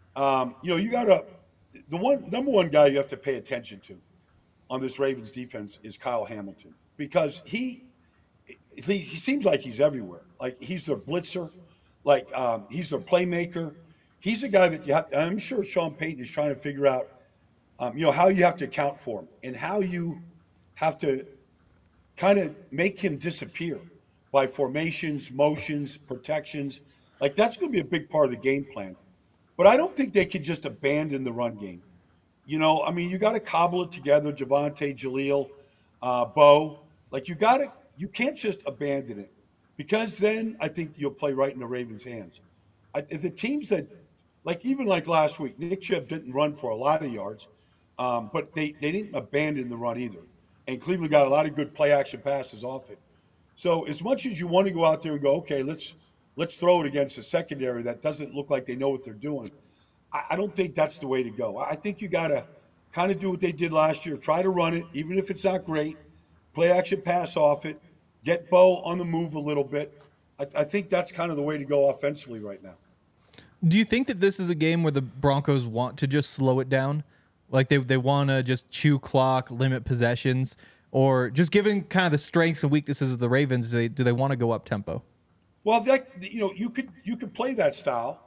you got number one guy you have to pay attention to on this Ravens defense is Kyle Hamilton, because he seems like he's everywhere. Like, he's their blitzer, like he's their playmaker. He's a guy that I'm sure Sean Payton is trying to figure out, how you have to account for him and how you have to kind of make him disappear by formations, motions, protections. Like, that's going to be a big part of the game plan. But I don't think they could just abandon the run game. You got to cobble it together, Javonte, Jaleel, Bo. Like, you can't just abandon it, because then I think you'll play right in the Ravens' hands. The teams that, even last week, Nick Chubb didn't run for a lot of yards, but they didn't abandon the run either. And Cleveland got a lot of good play action passes off it. So as much as you want to go out there and go, okay, let's throw it against a secondary that doesn't look like they know what they're doing, I don't think that's the way to go. I think you got to kind of do what they did last year. Try to run it, even if it's not great. Play action pass off it. Get Bo on the move a little bit. I think that's kind of the way to go offensively right now. Do you think that this is a game where the Broncos want to just slow it down? Like, they want to just chew clock, limit possessions, or just given kind of the strengths and weaknesses of the Ravens, do they want to go up tempo? Well, you could play that style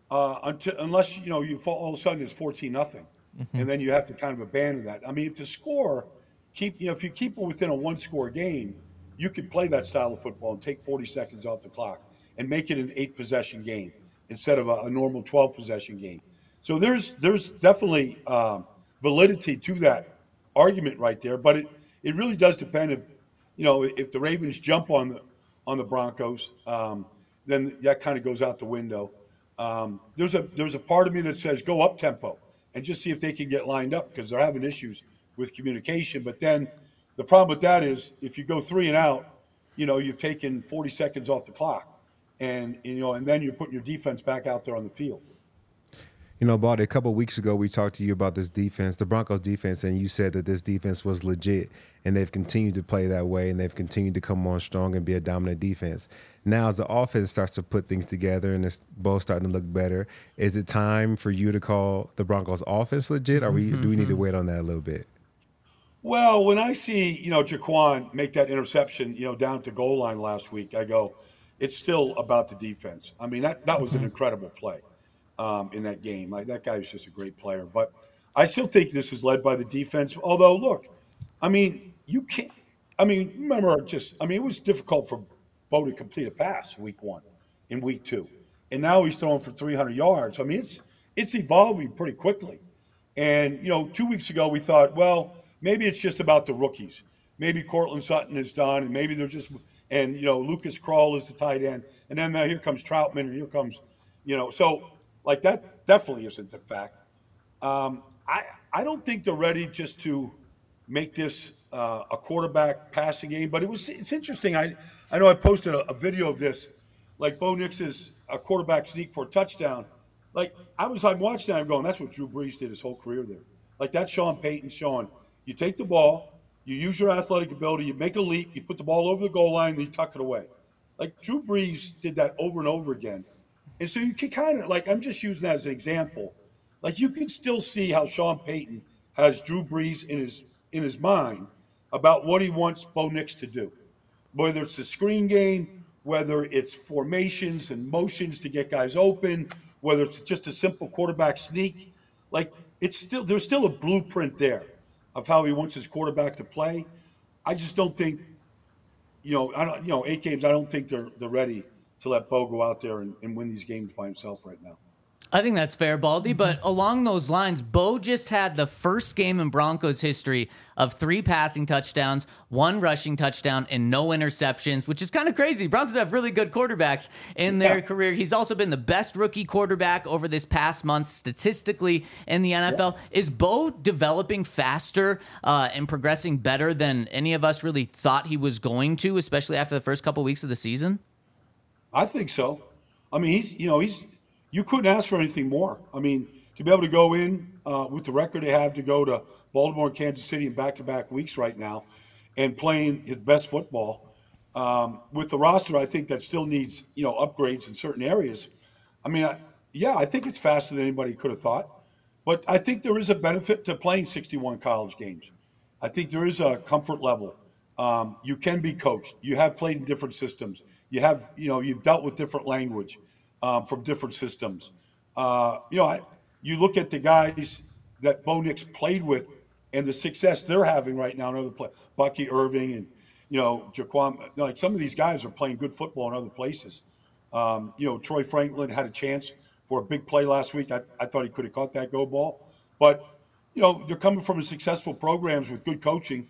unless you fall, all of a sudden it's 14-0, and then you have to kind of abandon that. I mean, if the score if you keep it within a one-score game, you could play that style of football and take 40 seconds off the clock and make it an 8-possession game instead of a normal 12-possession game. So there's definitely validity to that argument right there, but it really does depend if the Ravens jump on the Broncos, then that kind of goes out the window. There's a part of me that says go up tempo and just see if they can get lined up, because they're having issues with communication. But then the problem with that is if you go 3 and out, you've taken 40 seconds off the clock, and then you're putting your defense back out there on the field. Baldy, a couple of weeks ago, we talked to you about this defense, the Broncos defense, and you said that this defense was legit, and they've continued to play that way, and they've continued to come on strong and be a dominant defense. Now, as the offense starts to put things together and it's both starting to look better, is it time for you to call the Broncos offense legit, or do we need to wait on that a little bit? Well, when I see, Jaquan make that interception, down at the goal line last week, I go, it's still about the defense. I mean, that was an incredible play. In that game. That guy was just a great player. But I still think this is led by the defense. Although, look, you can't – remember it was difficult for Bo to complete a pass week 1 in week 2. And now he's throwing for 300 yards. It's evolving pretty quickly. And, 2 weeks ago we thought, well, maybe it's just about the rookies. Maybe Cortland Sutton is done, and maybe they're just – and, Lucas Krull is the tight end. And then here comes Troutman, and here comes – so – like, that definitely isn't the fact. I don't think they're ready just to make this a quarterback passing game. But it's interesting. I know I posted a video of this, like Bo Nix is a quarterback sneak for a touchdown. Like I'm watching that, I'm going, that's what Drew Brees did his whole career there. Like that's Sean Payton showing. You take the ball, you use your athletic ability, you make a leap, you put the ball over the goal line, and you tuck it away. Like Drew Brees did that over and over again. And so you can kind of, like, I'm just using that as an example. Like you can still see how Sean Payton has Drew Brees in his mind about what he wants Bo Nix to do. Whether it's the screen game, whether it's formations and motions to get guys open, whether it's just a simple quarterback sneak, like there's still a blueprint there of how he wants his quarterback to play. I just don't think, 8 games, I don't think they're ready to let Bo go out there and win these games by himself right now. I think that's fair, Baldy. But along those lines, Bo just had the first game in Broncos history of 3 passing touchdowns, 1 rushing touchdown, and no interceptions, which is kind of crazy. Broncos have really good quarterbacks in their career. He's also been the best rookie quarterback over this past month statistically in the NFL. Yeah. Is Bo developing faster and progressing better than any of us really thought he was going to, especially after the first couple weeks of the season? I think so. I mean, you couldn't ask for anything more. I mean, to be able to go in with the record they have, to go to Baltimore and Kansas City in back-to-back weeks right now and playing his best football with the roster, I think that still needs, upgrades in certain areas. I mean, I think it's faster than anybody could have thought. But I think there is a benefit to playing 61 college games. I think there is a comfort level. You can be coached. You have played in different systems. You have, you've dealt with different language. From different systems. You look at the guys that Bo Nix played with and the success they're having right now in other places. Bucky Irving and, Jaquan. Like some of these guys are playing good football in other places. Troy Franklin had a chance for a big play last week. I thought he could have caught that go ball. But, they're coming from successful programs with good coaching.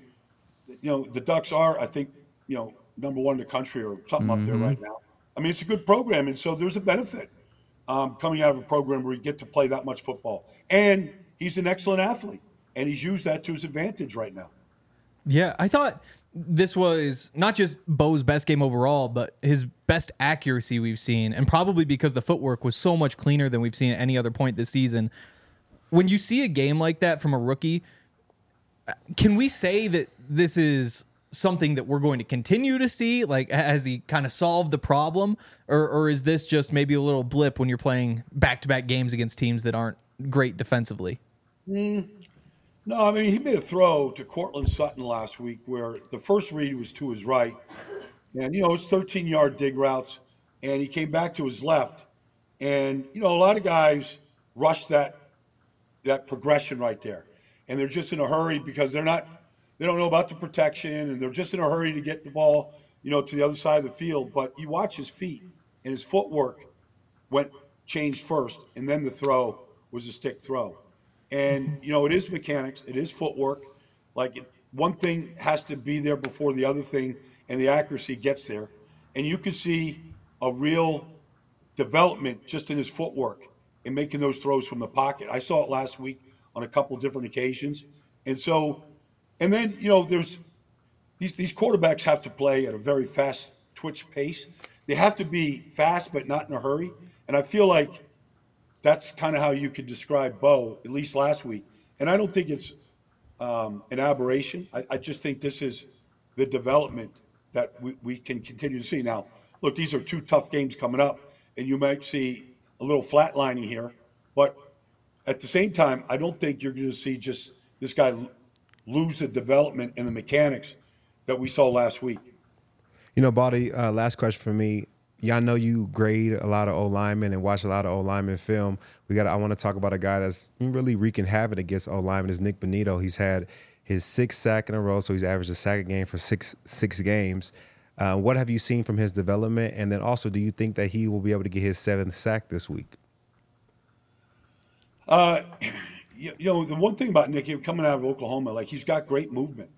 The Ducks are, I think, number 1 in the country or something up there right now. I mean, it's a good program, and so there's a benefit coming out of a program where you get to play that much football. And he's an excellent athlete, and he's used that to his advantage right now. Yeah, I thought this was not just Bo's best game overall, but his best accuracy we've seen, and probably because the footwork was so much cleaner than we've seen at any other point this season. When you see a game like that from a rookie, can we say that this is something that we're going to continue to see? Like, has he kind of solved the problem, or is this just maybe a little blip when you're playing back-to-back games against teams that aren't great defensively? No, I mean, he made a throw to Cortland Sutton last week where the first read was to his right, and it's 13-yard dig routes, and he came back to his left, and a lot of guys rush that progression right there, and they're just in a hurry because they don't know about the protection, and they're just in a hurry to get the ball, to the other side of the field. But you watch his feet, and his footwork changed first, and then the throw was a stick throw. And, it is mechanics. It is footwork. Like, one thing has to be there before the other thing, and the accuracy gets there. And you can see a real development just in his footwork in making those throws from the pocket. I saw it last week on a couple of different occasions. And so – and then, there's these quarterbacks have to play at a very fast twitch pace. They have to be fast but not in a hurry. And I feel like that's kind of how you could describe Bo, at least last week. And I don't think it's an aberration. I just think this is the development that we can continue to see. Now, look, these are 2 tough games coming up, and you might see a little flatlining here. But at the same time, I don't think you're going to see just this guy lose the development and the mechanics that we saw last week. Baldy, last question for me. Y'all know you grade a lot of O-linemen and watch a lot of O-linemen film. I want to talk about a guy that's really wreaking havoc against O-linemen is Nick Bonito. He's had his 6th sack in a row, so he's averaged a sack a game for six games. What have you seen from his development? And then also, do you think that he will be able to get his 7th sack this week? The one thing about Nick, coming out of Oklahoma, like, he's got great movement.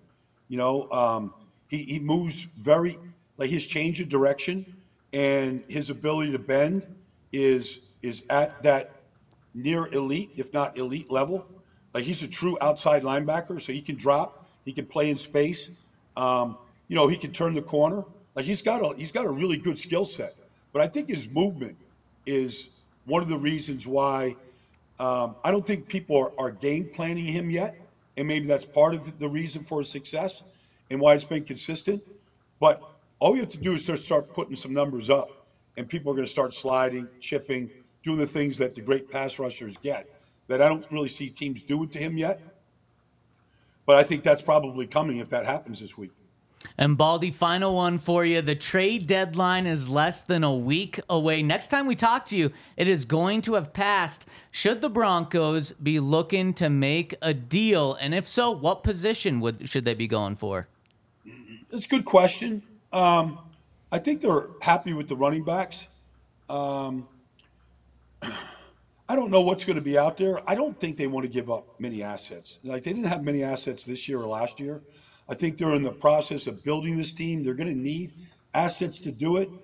He moves very, like, his change of direction and his ability to bend is at that near elite, if not elite level. Like, he's a true outside linebacker, so he can drop, He can play in space. He can turn the corner. Like he's got a really good skill set. But I think his movement is one of the reasons why I don't think people are game planning him yet, and maybe that's part of the reason for his success and why it's been consistent. But all we have to do is start putting some numbers up, and people are going to start sliding, chipping, doing the things that the great pass rushers get that I don't really see teams doing to him yet. But I think that's probably coming if that happens this week. And Baldy, final one for you. The trade deadline is less than a week away. Next time we talk to you, it is going to have passed. Should the Broncos be looking to make a deal? And if so, what position should they be going for? That's a good question. I think they're happy with the running backs. I don't know what's going to be out there. I don't think they want to give up many assets. Like they didn't have many assets this year or last year. I think they're in the process of building this team. They're going to need assets to do it.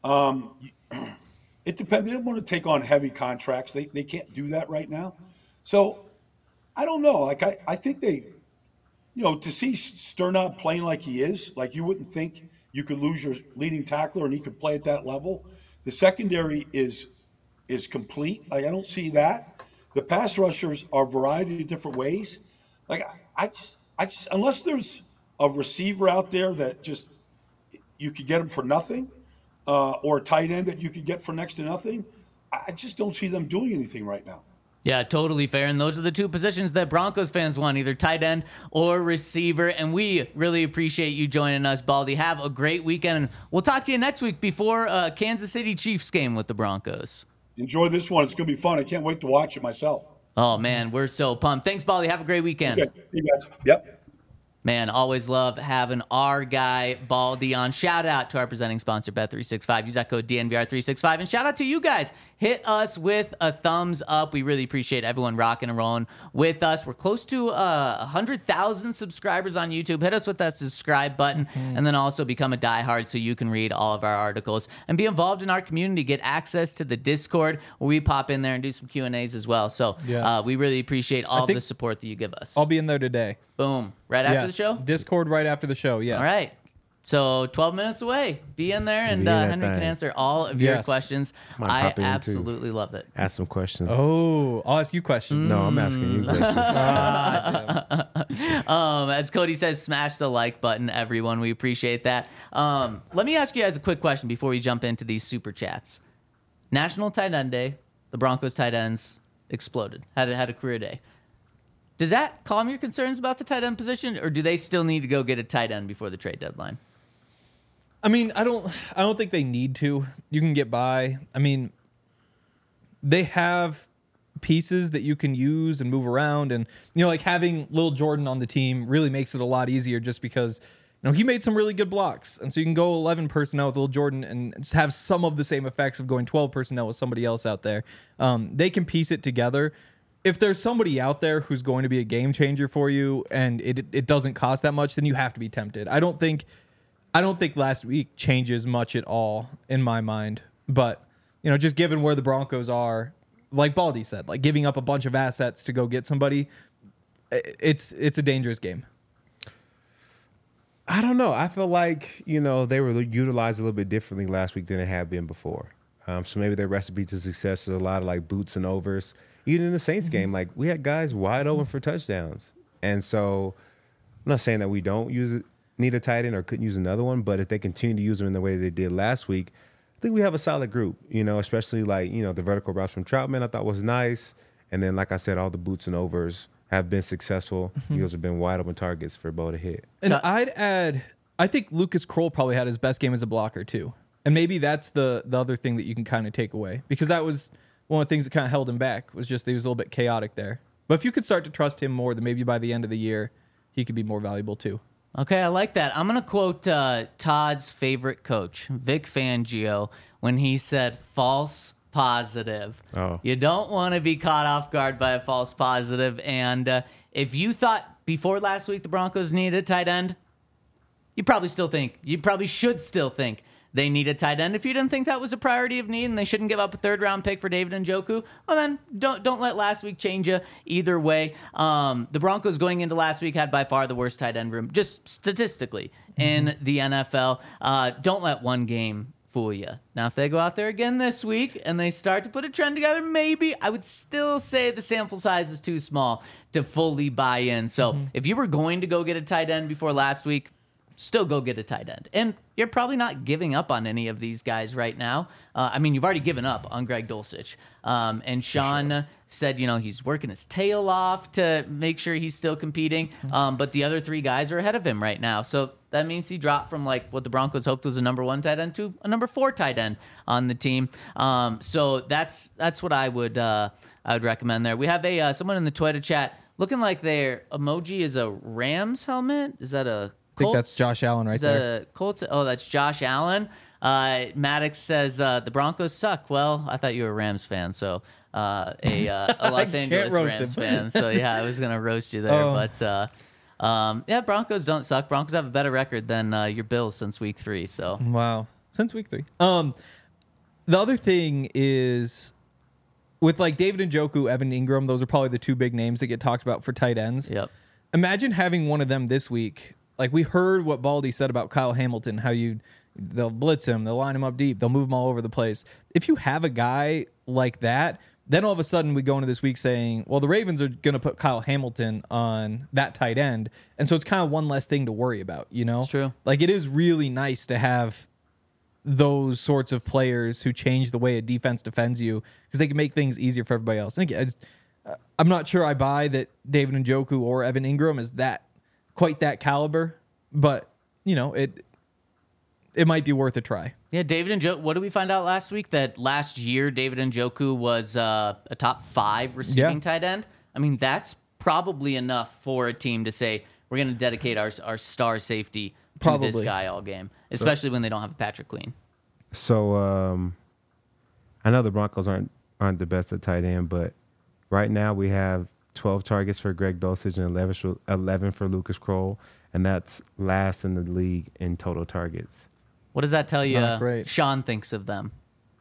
It depends. They don't want to take on heavy contracts. They can't do that right now. So I don't know. Like I think they, to see Sternad playing like he is, like you wouldn't think you could lose your leading tackler and he could play at that level. The secondary is complete. Like I don't see that. The pass rushers are a variety of different ways. Like I just unless there's a receiver out there that just you could get him for nothing, or a tight end that you could get for next to nothing, I just don't see them doing anything right now. Yeah, totally fair. And those are the two positions that Broncos fans want, either tight end or receiver. And we really appreciate you joining us, Baldy. Have a great weekend. And we'll talk to you next week before Kansas City Chiefs game with the Broncos. Enjoy this one. It's going to be fun. I can't wait to watch it myself. Oh, man, we're so pumped. Thanks, Baldy. Have a great weekend. Okay. See you guys. Yep. Man, always love having our guy Baldy on. Shout out to our presenting sponsor, Bet365. Use that code DNVR365. And shout out to you guys. Hit us with a thumbs up. We really appreciate everyone rocking and rolling with us. We're close to 100,000 subscribers on YouTube. Hit us with that subscribe button, and then also become a diehard so you can read all of our articles and be involved in our community. Get access to the Discord where we pop in there and do some Q&As as well. So Yes. We really appreciate all of the support that you give us. I'll be in there today. Boom. Right after the show? Discord right after the show, yes. All right. So 12 minutes away. Be in there, and Be in that Henry can thing. answer all of your Yes. questions. Might I pop in, too. absolutely love it. Ask some questions. Oh, I'll ask you questions. No, I'm asking you questions. As Cody says, smash the like button, everyone. We appreciate that. Let me ask you guys a quick question before we jump into these super chats. National Tight End Day. The Broncos tight ends exploded. Had a career day. Does that calm your concerns about the tight end position, or do they still need to go get a tight end before the trade deadline? I mean, I don't think they need to. You can get by. I mean, they have pieces that you can use and move around, and like having Lil Jordan on the team really makes it a lot easier just because he made some really good blocks, and so you can go 11 personnel with Lil Jordan and just have some of the same effects of going 12 personnel with somebody else out there. They can piece it together. If there's somebody out there who's going to be a game changer for you and it doesn't cost that much, then you have to be tempted. I don't think last week changes much at all in my mind. But, just given where the Broncos are, like Baldy said, like giving up a bunch of assets to go get somebody, it's a dangerous game. I don't know. I feel like, they were utilized a little bit differently last week than they have been before. So maybe their recipe to success is a lot of like boots and overs. Even in the Saints game, like we had guys wide open for touchdowns. And so I'm not saying that we don't need a tight end or couldn't use another one, but if they continue to use them in the way they did last week, I think we have a solid group, especially like, the vertical routes from Troutman I thought was nice. And then, like I said, all the boots and overs have been successful. Those have been wide open targets for Bo to hit. And I'd add, I think Lucas Kroll probably had his best game as a blocker too. And maybe that's the other thing that you can kind of take away, because that was one of the things that kind of held him back, was just he was a little bit chaotic there. But if you could start to trust him more, then maybe by the end of the year, he could be more valuable too. Okay, I like that. I'm going to quote Todd's favorite coach, Vic Fangio, when he said false positive. Oh. You don't want to be caught off guard by a false positive. And if you thought before last week the Broncos needed a tight end, you probably should still think they need a tight end. If you didn't think that was a priority of need and they shouldn't give up a 3rd-round pick for David Njoku, well then don't let last week change you either way. The Broncos going into last week had by far the worst tight end room, just statistically, in the NFL. Don't let one game fool you. Now, if they go out there again this week and they start to put a trend together, maybe I would still say the sample size is too small to fully buy in. So if you were going to go get a tight end before last week, still go get a tight end. And you're probably not giving up on any of these guys right now. I mean, you've already given up on Greg Dulcich. And Sean said, he's working his tail off to make sure he's still competing. But the other 3 guys are ahead of him right now. So that means he dropped from like what the Broncos hoped was a number 1 tight end to a number 4 tight end on the team. So that's what I would recommend there. We have someone in the Twitter chat looking like their emoji is a Rams helmet. Is that a I think that's Josh Allen right there. Colts? Oh, that's Josh Allen. Maddox says the Broncos suck. Well, I thought you were a Rams fan, so a Los Angeles Rams fan. So yeah, I was gonna roast you there, but yeah, Broncos don't suck. Broncos have a better record than your Bills since week 3. So wow, since week 3. The other thing is with like David Njoku, Evan Ingram. Those are probably the 2 big names that get talked about for tight ends. Yep. Imagine having one of them this week. Like we heard what Baldy said about Kyle Hamilton, how they'll blitz him, they'll line him up deep, they'll move him all over the place. If you have a guy like that, then all of a sudden we go into this week saying, well, the Ravens are going to put Kyle Hamilton on that tight end. And so it's kind of one less thing to worry about, It's true. Like it is really nice to have those sorts of players who change the way a defense defends you because they can make things easier for everybody else. And again, I'm not sure I buy that David Njoku or Evan Ingram is quite that caliber, but it might be worth a try. Yeah, David Njoku. What did we find out last week? That last year David Njoku was a top 5 receiving tight end. I mean, that's probably enough for a team to say we're going to dedicate our star safety to this guy all game, especially when they don't have a Patrick Queen. So I know the Broncos aren't the best at tight end, but right now we have 12 targets for Greg Dulcich and 11 for Lucas Kroll, and that's last in the league in total targets. What does that tell you Sean thinks of them?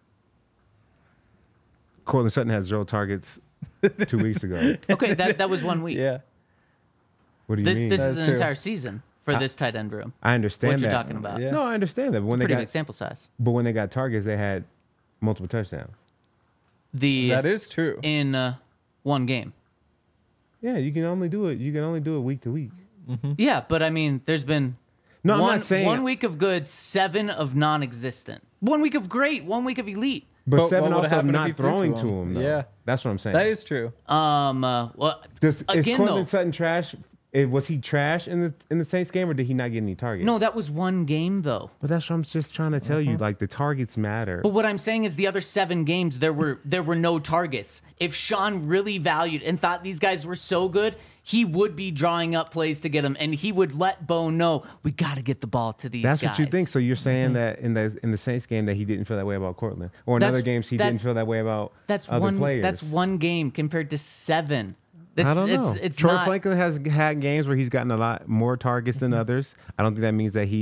Courtland Sutton has 0 targets 2 weeks ago. Okay, that was 1 week. Yeah. What do you mean? This is an entire season for this tight end room. I understand what that. you're talking about. Yeah. No, I understand that. But when pretty big sample size. But when they got targets, they had multiple touchdowns. That is true. In 1 game. Yeah, you can only do it. You can only do it week to week. Mm-hmm. Yeah, but I mean, there's been I'm not saying 1 week of good, 7 of non-existent. 1 week of great, 1 week of elite. But 7 also not throwing to him. Though. Yeah, that's what I'm saying. That is true. Well, is Courtland Sutton trash? Was he trash in the Saints game, or did he not get any targets? No, that was 1 game though. But that's what I'm just trying to tell you. Like the targets matter. But what I'm saying is the other 7 games there were no targets. If Sean really valued and thought these guys were so good, he would be drawing up plays to get them, and he would let Bo know we got to get the ball to these guys. That's what you think. So you're saying that in the Saints game that he didn't feel that way about Courtland, or in other games he didn't feel that way about other players. That's 1 game compared to 7. I don't know. Troy Franklin has had games where he's gotten a lot more targets than others. I don't think that means that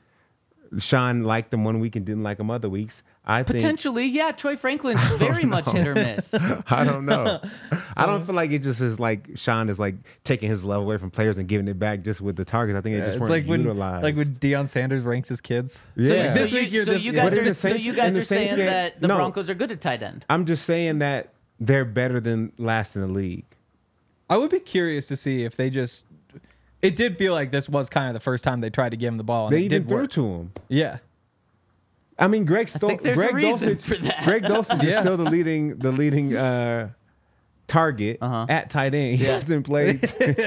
Sean liked him 1 week and didn't like him other weeks. Potentially, yeah. Troy Franklin's very much hit or miss. I don't know. I don't feel like it just is like Sean is like taking his love away from players and giving it back just with the targets. I think it just weren't utilized. Like when Deion Sanders ranks his kids. Yeah. So you guys are saying that the Broncos are good at tight end. I'm just saying that they're better than last in the league. I would be curious to see if they just. It did feel like this was kind of the first time they tried to give him the ball. And they even threw to him. Yeah. I mean, Greg Dulcich. Greg Dulcich is still the leading target at tight end. He hasn't played.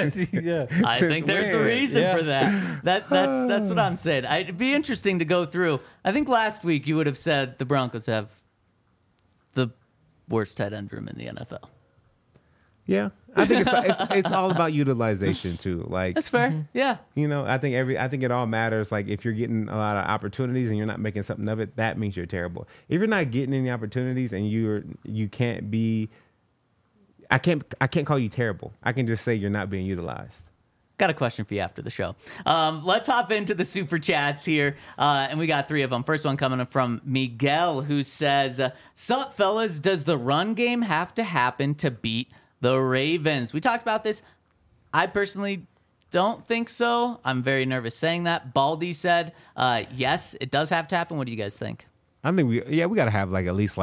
I think there's a reason for that. That's what I'm saying. It'd be interesting to go through. I think last week you would have said the Broncos have the worst tight end room in the NFL. Yeah, I think it's all about utilization too. Like that's fair. Yeah, I think it all matters. Like if you're getting a lot of opportunities and you're not making something of it, that means you're terrible. If you're not getting any opportunities and you can't be, I can't call you terrible. I can just say you're not being utilized. Got a question for you after the show. Let's hop into the super chats here. And we got 3 of them. First one coming from Miguel, who says, "Sup, fellas, does the run game have to happen to beat the Ravens?" We talked about this. I personally don't think so. I'm very nervous saying that. Baldy said, yes, it does have to happen. What do you guys think? I think we got to have at least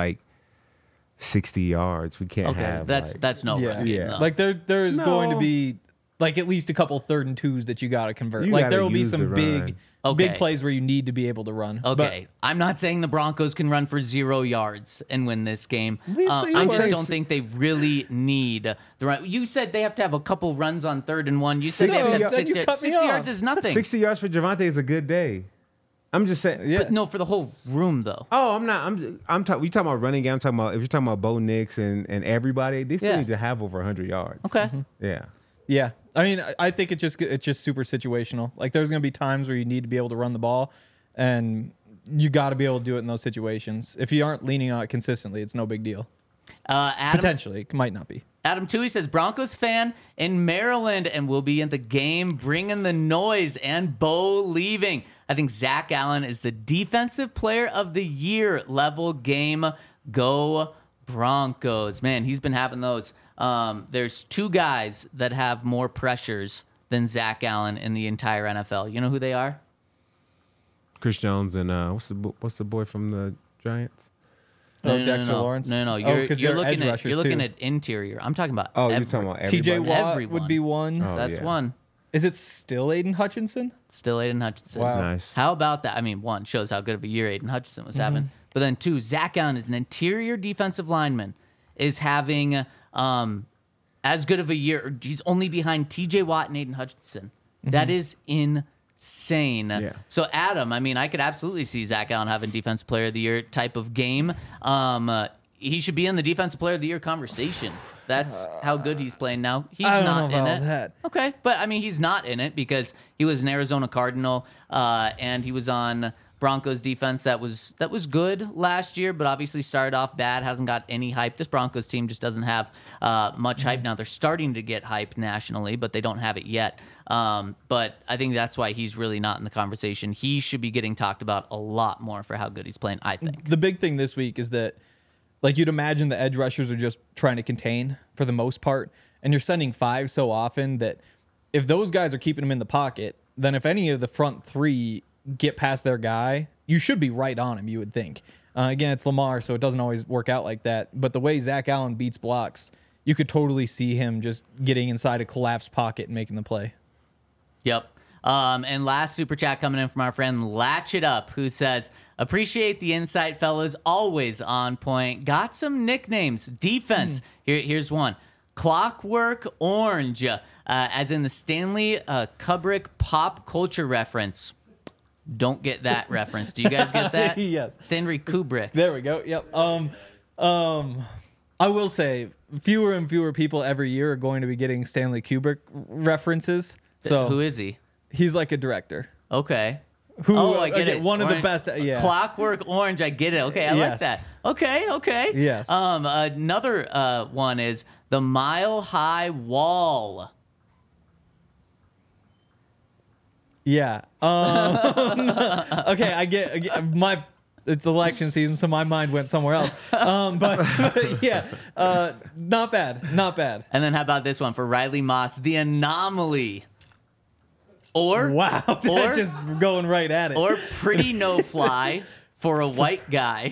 60 yards. We can't have that's no Yeah. run game, Yeah. though. Like there's going to No. be at least a couple 3rd and 2s that you got to convert. You Like gotta there will be use the some run. big Okay. plays where you need to be able to run. Okay, I'm not saying the Broncos can run for 0 yards and win this game. didn't say you I were. just don't think they really need the run. You said they have to have a couple runs on 3rd and 1. You said they have to have No, then 6 you yards. cut me 60 off. yards is nothing. 60 yards for Javonte is a good day. I'm just saying. Yeah. But no, for the whole room though. Oh, I'm not. I'm talking. We talking about running game. I'm talking about if you're talking about Bo Nix and everybody, they still Yeah. need to have over 100 yards. Okay. Yeah. Yeah. I mean, I think it's just super situational. Like there's going to be times where you need to be able to run the ball, and you got to be able to do it in those situations. If you aren't leaning on it consistently, it's no big deal. Adam, Potentially, it might not be. Adam Toohey says Broncos fan in Maryland and will be in the game bringing the noise and Bo leaving. I think Zach Allen is the defensive player of the year level game. Go Broncos. Man, he's been having those. There's 2 guys that have more pressures than Zach Allen in the entire NFL. You know who they are? Chris Jones and what's the boy from the Giants? Dexter Lawrence? No. You're 'cause they're looking edge at rushers, too. interior. I'm talking about Oh, you're talking about TJ everybody? Watt Everyone. would be one. Oh, That's yeah. one. Is it still Aiden Hutchinson? Still Aiden Hutchinson. Wow. Nice. How about that? I mean, 1, shows how good of a year Aiden Hutchinson was having. But then 2, Zach Allen is an interior defensive lineman, is having as good of a year. He's only behind TJ Watt and Aiden Hutchinson. That is insane. Yeah. So, Adam, I mean, I could absolutely see Zach Allen having Defensive Player of the Year type of game. He should be in the Defensive Player of the Year conversation. That's how good he's playing now. He's I don't not know in about it. that. Okay, but I mean, he's not in it because he was an Arizona Cardinal, and he was on Broncos defense that was good last year, but obviously started off bad. Hasn't got any hype. This Broncos team just doesn't have much hype now. They're starting to get hype nationally, but they don't have it yet. But I think that's why he's really not in the conversation. He should be getting talked about a lot more for how good he's playing, I think. The big thing this week is that, like, you'd imagine the edge rushers are just trying to contain for the most part, and you're sending 5 so often that if those guys are keeping him in the pocket, then if any of the front 3 get past their guy, you should be right on him, you would think. Again, it's Lamar, so it doesn't always work out like that. But the way Zach Allen beats blocks, you could totally see him just getting inside a collapsed pocket and making the play. Yep. And last super chat coming in from our friend Latch It Up, who says, appreciate the insight, fellas. Always on point. Got some nicknames. Defense. Here's one. Clockwork Orange, as in the Stanley Kubrick pop culture reference. Don't get that reference. Do you guys get that? Yes. Stanley Kubrick. There we go. Yep. I will say fewer and fewer people every year are going to be getting Stanley Kubrick references. So Who is he? he's like a director. Okay. Who, I get again, it. one of the Orange- best. Yeah. Clockwork Orange. I get it. Okay, I like Yes. that. Okay. Yes. Another one is the Mile High Wall. Yeah. Okay, I get my. It's election season, so my mind went somewhere else. But yeah, not bad, not bad. And then how about this one for Riley Moss, the Anomaly. Or Wow, Or- just going right at it. or Pretty No Fly for a white guy.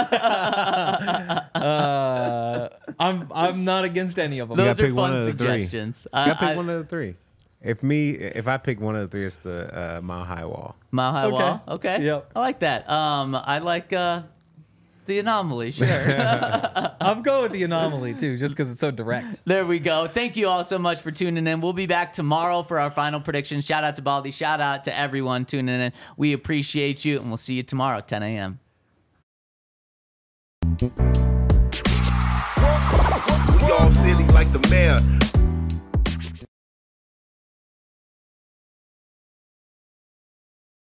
I'm not against any of them. Those gotta are pick one fun of the three. suggestions. You gotta pick one of the 3. If I pick one of the 3, it's the Mile High Wall. Mile High Okay. Wall. Okay. Yep. I like that. I like the Anomaly. Sure. I'll go with the Anomaly too, just because it's so direct. There we go. Thank you all so much for tuning in. We'll be back tomorrow for our final prediction. Shout out to Baldy. Shout out to everyone tuning in. We appreciate you, and we'll see you tomorrow at 10 a.m. We all silly like the mayor.